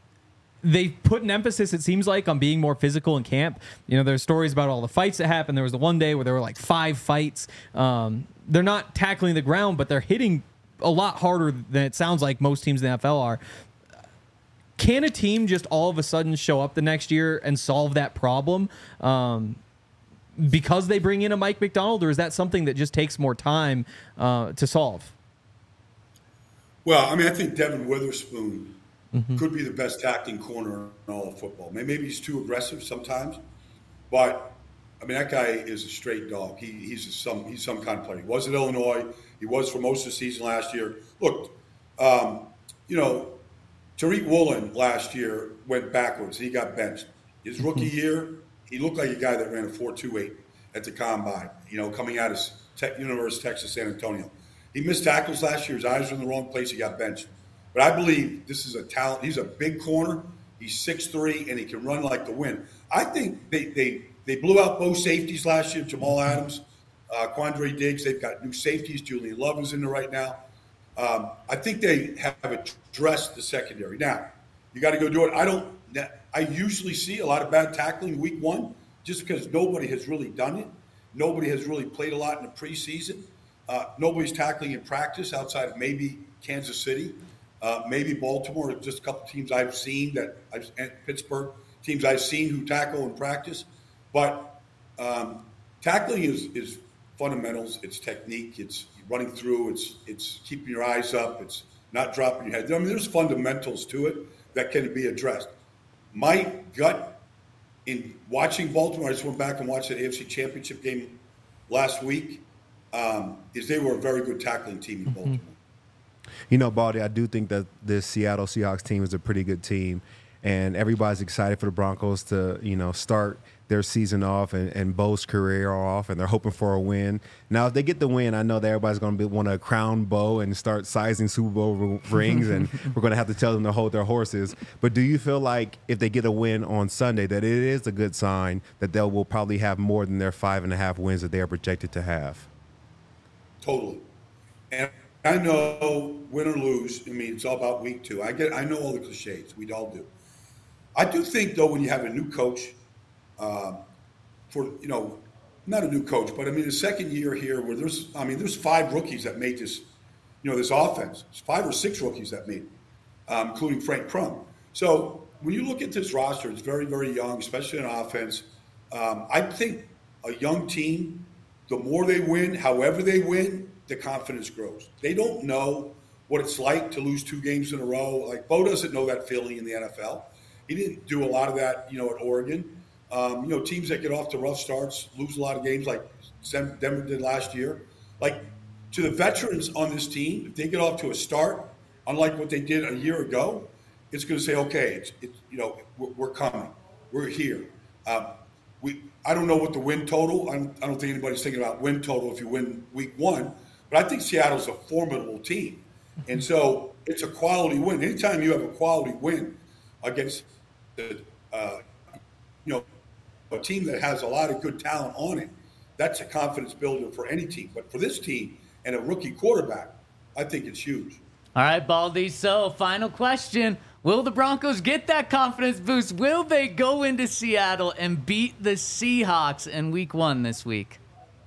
They put an emphasis, it seems like, on being more physical in camp. You know, there's stories about all the fights that happened. There was the one day where there were like five fights. Um, they're not tackling the ground, but they're hitting a lot harder than it sounds like most teams in the N F L are. Can a team just all of a sudden show up the next year and solve that problem? Um, because they bring in a Mike Macdonald, or is that something that just takes more time uh, to solve? Well, I mean, I think Devin Witherspoon mm-hmm. could be the best tackling corner in all of football. Maybe he's too aggressive sometimes, but I mean, that guy is a straight dog. He, he's a, some he's some kind of player. He was at Illinois. He was for most of the season last year. Look, um, you know, Tariq Woolen last year went backwards. He got benched. His rookie year, he looked like a guy that ran a four two eight at the combine, you know, coming out of Tech, University of Texas San Antonio. He missed tackles last year. His eyes were in the wrong place. He got benched. But I believe this is a talent. He's a big corner. He's six three, and he can run like the wind. I think they they, they blew out both safeties last year, Jamal Adams, uh, Quandre Diggs. They've got new safeties. Julian Love is in there right now. Um, I think they have addressed the secondary. Now, you got to go do it. I don't – I usually see a lot of bad tackling week one just because nobody has really done it. Nobody has really played a lot in the preseason. Uh, nobody's tackling in practice outside of maybe Kansas City, uh, maybe Baltimore, just a couple teams I've seen that I've, and Pittsburgh, teams I've seen who tackle in practice. But um, tackling is, is fundamentals. It's technique. It's running through. It's it's keeping your eyes up. It's not dropping your head. I mean, there's fundamentals to it that can be addressed. My gut in watching Baltimore, I just went back and watched the A F C Championship game last week, um, is they were a very good tackling team in Baltimore. You know, Baldy, I do think that this Seattle Seahawks team is a pretty good team, and everybody's excited for the Broncos to, you know, start their season off and, and Bo's career off, and they're hoping for a win. Now, if they get the win, I know that everybody's going to want to crown Bo and start sizing Super Bowl rings, and we're going to have to tell them to hold their horses. But do you feel like if they get a win on Sunday that it is a good sign that they will probably have more than their five and a half wins that they are projected to have? Totally. And I know win or lose, I mean, it's all about week two. I get, I know all the cliches. We all do. I do think, though, when you have a new coach, Um, for, you know, not a new coach, but I mean, the second year here where there's, I mean, there's five rookies that made this, you know, this offense. There's five or six rookies that made it, um, including Frank Crum. So when you look at this roster, it's very, very young, especially in offense. Um, I think a young team, the more they win, however they win, the confidence grows. They don't know what it's like to lose two games in a row. Like, Bo doesn't know that feeling in the N F L. He didn't do a lot of that, you know, at Oregon. Um, you know, teams that get off to rough starts lose a lot of games like Denver did last year. Like, to the veterans on this team, if they get off to a start, unlike what they did a year ago, it's going to say, okay, it's, it's you know, we're, we're coming. We're here. Um, we I don't know what the win total, I don't, I don't think anybody's thinking about win total if you win week one, but I think Seattle's a formidable team. And so it's a quality win. Anytime you have a quality win against the, uh, you know, a team that has a lot of good talent on it, that's a confidence builder for any team. But for this team and a rookie quarterback, I think it's huge. All right, Baldy. So, final question. Will the Broncos get that confidence boost? Will they go into Seattle and beat the Seahawks in week one this week?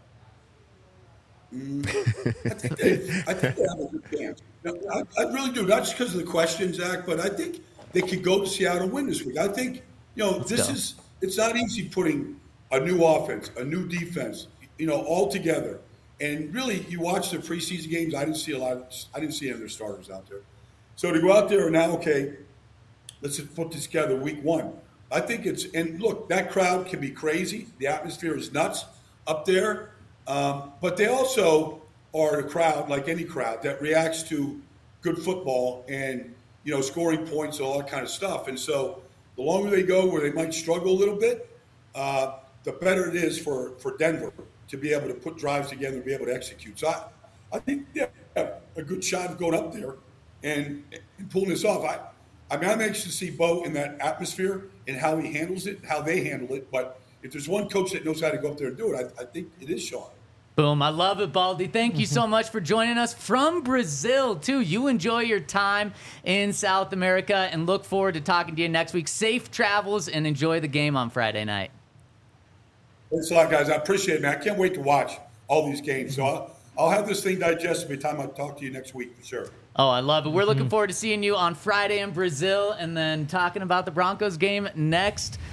Mm, I, think they, I think they have a good chance. No, I, I really do. Not just because of the question, Zach, but I think they could go to Seattle and win this week. I think, you know, Let's this go. is – it's not easy putting a new offense, a new defense, you know, all together. And really, you watch the preseason games. I didn't see a lot. Of, I didn't see any of their starters out there. So to go out there and now, okay, let's just put this together week one. I think it's – and look, that crowd can be crazy. The atmosphere is nuts up there. Um, but they also are a crowd, like any crowd, that reacts to good football and, you know, scoring points and all that kind of stuff. And so – the longer they go where they might struggle a little bit, uh, the better it is for, for Denver to be able to put drives together and be able to execute. So I, I think they have a good shot of going up there and, and pulling this off. I, I mean, I'm anxious to see Bo in that atmosphere and how he handles it, how they handle it. But if there's one coach that knows how to go up there and do it, I, I think it is Sean. Boom. I love it, Baldy. Thank you so much for joining us from Brazil, too. You enjoy your time in South America and look forward to talking to you next week. Safe travels and enjoy the game on Friday night. Thanks a lot, guys. I appreciate it, man. I can't wait to watch all these games. So I'll, I'll have this thing digested by the time I talk to you next week for sure. Oh, I love it. We're looking forward to seeing you on Friday in Brazil and then talking about the Broncos game next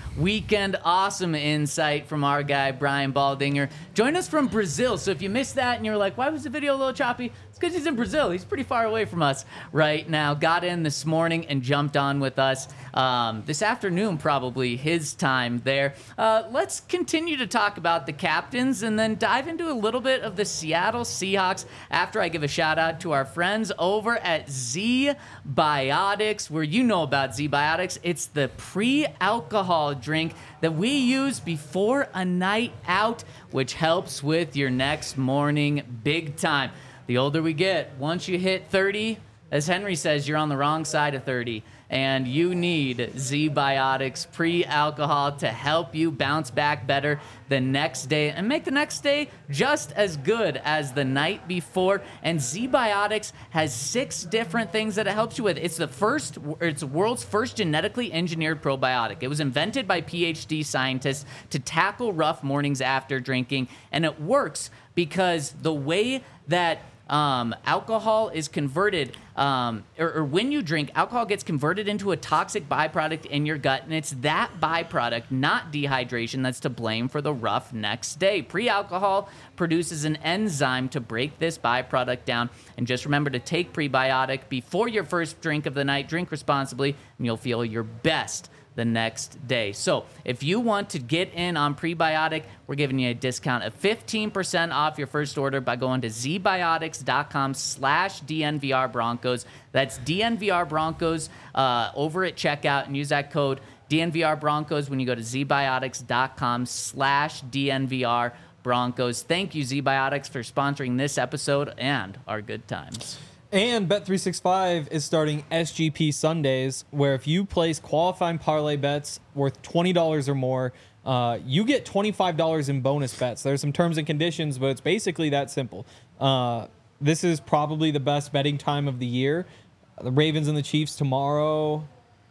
weekend. Awesome insight from our guy, Brian Baldinger. Join us from Brazil. So if you missed that and you're like, why was the video a little choppy? It's because he's in Brazil. He's pretty far away from us right now. Got in this morning and jumped on with us um, this afternoon, probably his time there. Uh, let's continue to talk about the captains and then dive into a little bit of the Seattle Seahawks after I give a shout out to our friends over at Z Biotics, where you know about Z Biotics. It's the pre-alcohol drink that we use before a night out, which helps with your next morning big time. The older we get, once you hit thirty, as Henry says, you're on the wrong side of thirty, and you need Z Biotics pre-alcohol to help you bounce back better the next day and make the next day just as good as the night before. And Z Biotics has six different things that it helps you with. It's the first, it's the world's first genetically engineered probiotic. It was invented by PhD scientists to tackle rough mornings after drinking, and it works because the way that Um, alcohol is converted, um, or, or when you drink, alcohol gets converted into a toxic byproduct in your gut, and it's that byproduct, not dehydration, that's to blame for the rough next day. Pre-alcohol produces an enzyme to break this byproduct down, and just remember to take prebiotic before your first drink of the night. Drink responsibly, and you'll feel your best the next day. So if you want to get in on prebiotic, we're giving you a discount of fifteen percent off your first order by going to zbiotics.com slash DNVR Broncos. That's D N V R Broncos uh, over at checkout, and use that code D N V R Broncos when you go to zbiotics.com slash DNVR Broncos. Thank you, ZBiotics, for sponsoring this episode and our good times. And Bet three sixty-five is starting S G P Sundays, where if you place qualifying parlay bets worth twenty dollars or more, uh, you get twenty-five dollars in bonus bets. There's some terms and conditions, but it's basically that simple. Uh, this is probably the best betting time of the year. The Ravens and the Chiefs tomorrow.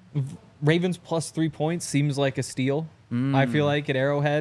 Ravens plus three points seems like a steal, mm. I feel like, at Arrowhead.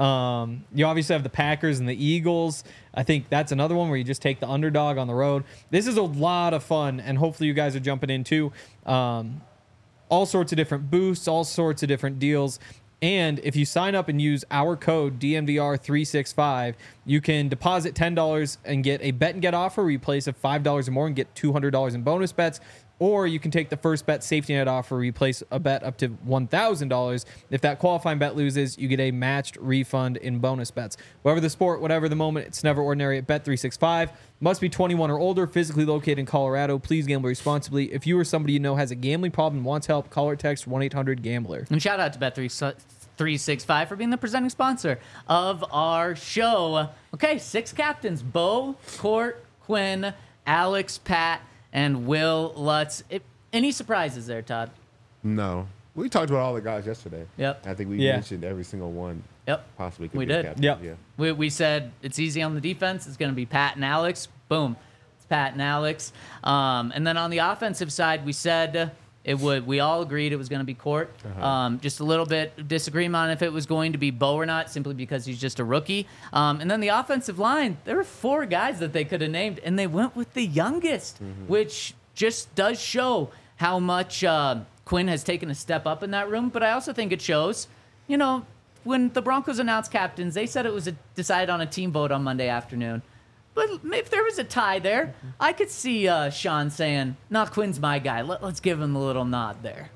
Um, you obviously have the Packers and the Eagles. I think that's another one where you just take the underdog on the road. This is a lot of fun, and hopefully you guys are jumping in too. Um, all sorts of different boosts, all sorts of different deals. And if you sign up and use our code D N V R three sixty-five, you can deposit ten dollars and get a bet and get offer where you place of five dollars or more and get two hundred dollars in bonus bets. Or you can take the first bet safety net offer where you place a bet up to one thousand dollars. If that qualifying bet loses, you get a matched refund in bonus bets. Whatever the sport, whatever the moment, it's never ordinary at Bet three sixty-five. Must be twenty-one or older, physically located in Colorado. Please gamble responsibly. If you or somebody you know has a gambling problem and wants help, call or text one eight hundred gambler. And shout out to Bet three sixty-five for being the presenting sponsor of our show. Okay, six captains: Bo, Court, Quinn, Alex, Pat, and Will Lutz. It, any surprises there, Todd? No. We talked about all the guys yesterday. Yep. I think we Yeah. mentioned every single one. Yep. Possibly could We be a did. captain. Yep. Yeah. We, we said it's easy on the defense. It's going to be Pat and Alex. Boom. It's Pat and Alex. Um, and then on the offensive side, we said it would. We all agreed it was going to be Court. Uh-huh. Um, just a little bit of disagreement on if it was going to be Bo or not, simply because he's just a rookie. Um, and then the offensive line, there were four guys that they could have named, and they went with the youngest, Mm-hmm. which just does show how much uh, Quinn has taken a step up in that room. But I also think it shows, you know, when the Broncos announced captains, they said it was a, decided on a team vote on Monday afternoon. But if there was a tie there, I could see uh, Sean saying, no, Quinn's my guy. Let, let's give him a little nod there.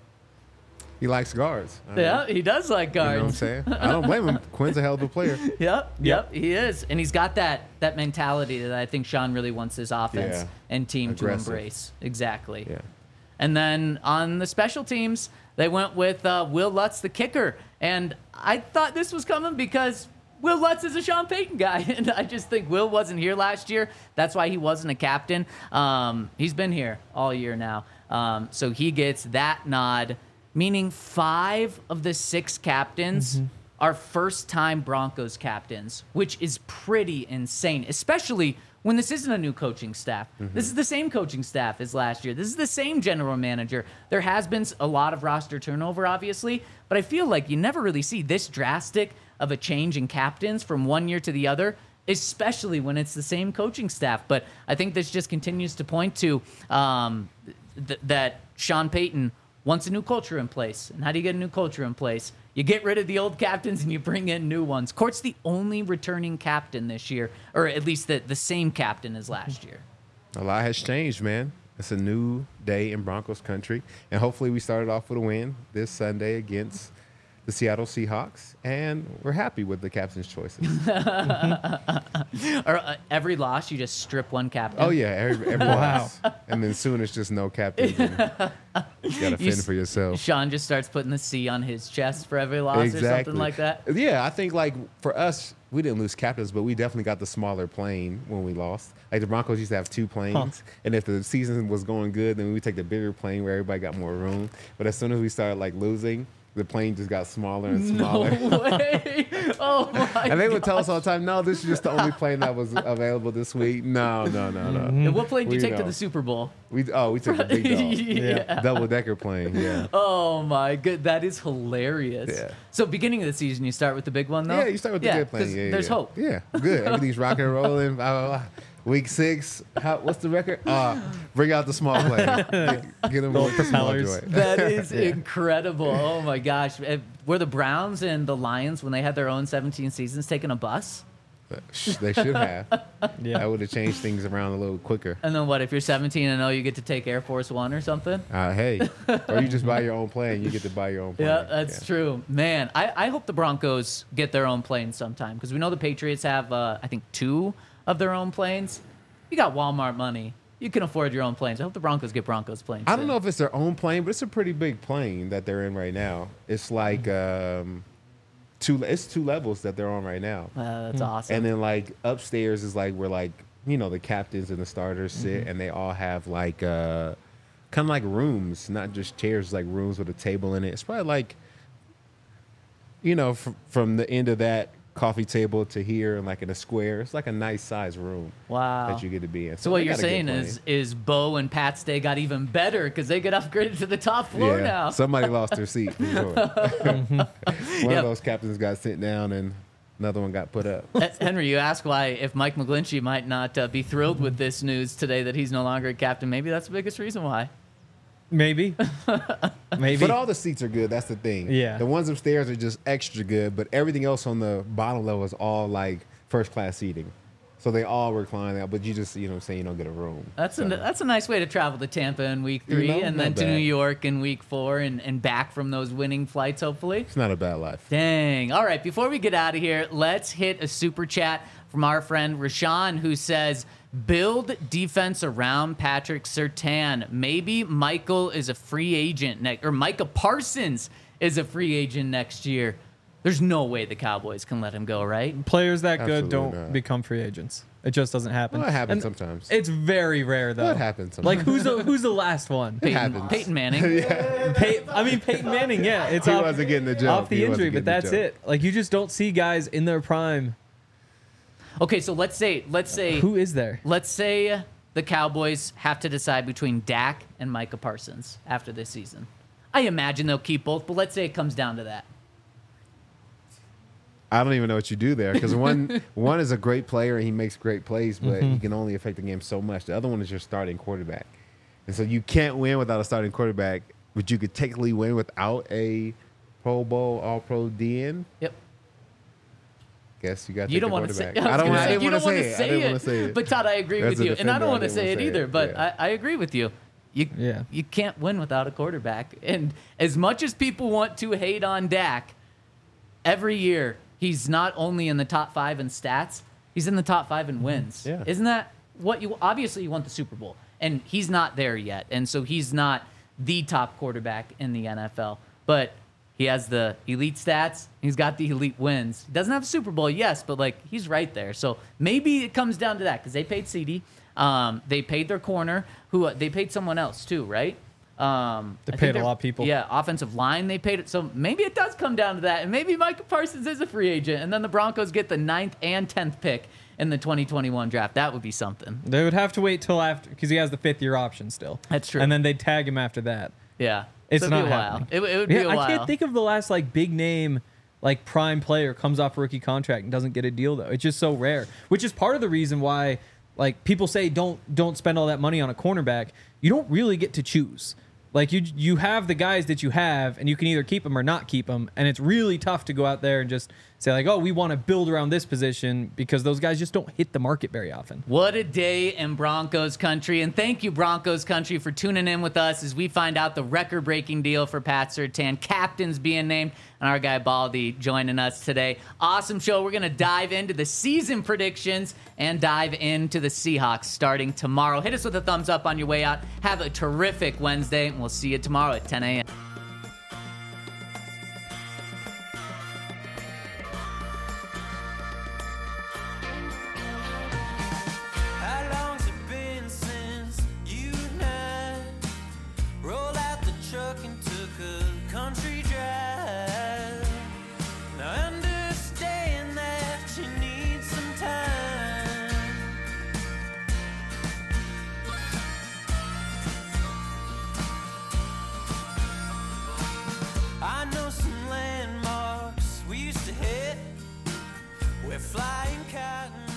He likes guards. I Yeah, mean, he does like You know what I'm guards. saying? I don't blame him. Quinn's a hell of a player. Yep, yep, he is. And he's got that that mentality that I think Sean really wants his offense Yeah. and team Aggressive. to embrace. Exactly. Yeah. And then on the special teams, they went with uh, Will Lutz, the kicker. And I thought this was coming because Will Lutz is a Sean Payton guy. And I just think Will wasn't here last year. That's why he wasn't a captain. Um, he's been here all year now. Um, so he gets that nod, meaning five of the six captains Mm-hmm. are first-time Broncos captains, which is pretty insane, especially when this isn't a new coaching staff. Mm-hmm. This is the same coaching staff as last year. This is the same general manager. There has been a lot of roster turnover, obviously, but I feel like you never really see this drastic of a change in captains from one year to the other, especially when it's the same coaching staff. But I think this just continues to point to um, th- that Sean Payton wants a new culture in place. And how do you get a new culture in place? You get rid of the old captains and you bring in new ones. Court's the only returning captain this year, or at least the, the same captain as last year. A lot has changed, man. It's a new day in Broncos country, and hopefully we started off with a win this Sunday against the Seattle Seahawks, and we're happy with the captain's choices. Or uh, every loss, you just strip one captain. Oh yeah, every, every loss, and then soon it's just no captains. And you gotta You fend s- for yourself. Sean just starts putting the C on his chest for every loss or Exactly. something like that. Yeah, I think like for us, we didn't lose captains, but we definitely got the smaller plane when we lost. Like the Broncos used to have two planes, and if the season was going good, then we would take the bigger plane where everybody got more room. But as soon as we started like losing, the plane just got smaller and smaller. No way. Oh my And they would tell us gosh. all the time, "No, this is just the only plane that was available this week." No, no, no, no. And what plane did you We take to know. the Super Bowl? We oh, we took the big dog, Yeah. double decker plane. Yeah, Oh my good, that is hilarious. Yeah. So beginning of the season, you start with the big one though. yeah. You start with the good plane. 'cause Yeah, there's yeah. hope. Yeah, good. Everything's rocking and rolling. Blah, blah, blah. Week six. How, what's the record? Uh, bring out the small plane. Get, get them with the small propellers. joint. That is incredible. Oh my gosh. Eh, Were the Browns and the Lions, when they had their own seventeen seasons, taking a bus? Sh- They should have. Yeah. That would have changed things around a little quicker. And then what, if you're seventeen and oh, you get to take Air Force One or something? Uh, hey, or you just buy your own plane. You get to buy your own plane. Yeah, that's true. Man, I, I hope the Broncos get their own planes sometime because we know the Patriots have, uh, I think, two of their own planes. You got Walmart money. You can afford your own planes. I hope the Broncos get Broncos planes. I don't soon. know if it's their own plane, but it's a pretty big plane that they're in right now. It's like um, two. It's two levels that they're on right now, Uh, that's awesome. and then like upstairs is like where like you know the captains and the starters sit, and they all have like uh, kind of like rooms, not just chairs, like rooms with a table in it. It's probably like you know fr- from the end of that coffee table to here, like in a square. It's like a nice size room. Wow. That you get to be in. So what they you're got a good saying plane. is is Bo and Pat's Day got even better because they get upgraded to the top floor yeah, now. somebody lost their seat for sure. One Yep. of those captains got sent down and another one got put up. Uh, Henry, you ask why if Mike McGlinchey might not uh, be thrilled with this news today that he's no longer a captain. Maybe that's the biggest reason why. Maybe. Maybe. But all the seats are good. That's the thing. Yeah. The ones upstairs are just extra good, but everything else on the bottom level is all like first class seating. So they all recline out, but you just, you know what I'm saying, you don't get a room. That's so. a that's a nice way to travel to Tampa in week You three know, and not then to bad. New York in week four and, and back from those winning flights, hopefully. It's not a bad life. Dang. All right, before we get out of here, let's hit a super chat from our friend Rashawn who says, build defense around Patrick Surtain. Maybe Michael is a free agent next, or Micah Parsons is a free agent next year. There's no way the Cowboys can let him go, right? Players that good Absolutely don't not. become free agents. It just doesn't happen. Well, it happens And sometimes. It's very rare though. Well, it happens Like sometimes. who's the who's the last one? It happens. Peyton Manning. Pey- I mean Peyton Manning. Yeah, it's He off, wasn't getting the joke. off the He wasn't injury, getting but the that's joke. it. Like you just don't see guys in their prime. Okay, so let's say let's say Who is there? let's say the Cowboys have to decide between Dak and Micah Parsons after this season. I imagine they'll keep both, but let's say it comes down to that. I don't even know what you do there because one one is a great player and he makes great plays, but Mm-hmm. he can only affect the game so much. The other one is your starting quarterback, and so you can't win without a starting quarterback. But you could technically win without a Pro Bowl All Pro D N. Yep. Guess you got. You don't want to say. I I don't. want I didn't you want don't to want say to it. I say didn't it. want to say it. But Todd, I agree As with a you, and I defender, don't I want to didn't say wanna it say either. it. But Yeah. I, I agree with you. You Yeah. you can't win without a quarterback. And as much as people want to hate on Dak, every year he's not only in the top five in stats, he's in the top five in wins. Yeah. Isn't that what you? Obviously, you want the Super Bowl, and he's not there yet, and so he's not the top quarterback in the N F L, but. He has the elite stats. He's got the elite wins. He doesn't have a Super Bowl, yes, but like he's right there. So maybe it comes down to that because they paid CeeDee. Um, they paid their corner, who uh, they paid someone else too, right? Um, They I think paid a they're- lot of people. Yeah, offensive line they paid it. So maybe it does come down to that, and maybe Micah Parsons is a free agent, and then the Broncos get the ninth and tenth pick in the twenty twenty-one draft. That would be something. They would have to wait till after because he has the fifth year option still. That's true. And then they'd tag him after that. Yeah, It's So it'd not be a while. happening. It, it would be Yeah, a while. I can't think of the last like big name, like prime player comes off a rookie contract and doesn't get a deal though. It's just so rare, which is part of the reason why like people say don't don't spend all that money on a cornerback. You don't really get to choose. Like you, you have the guys that you have, and you can either keep them or not keep them. And it's really tough to go out there and just say like, "Oh, we want to build around this position," because those guys just don't hit the market very often. What a day in Broncos country. And thank you, Broncos country, for tuning in with us as we find out the record-breaking deal for Pat Surtain. Captains being named, and our guy Baldy joining us today. Awesome show. We're going to dive into the season predictions and dive into the Seahawks starting tomorrow. Hit us with a thumbs up on your way out. Have a terrific Wednesday, and we'll see you tomorrow at ten a.m. I know some landmarks we used to hit. We're flying cotton.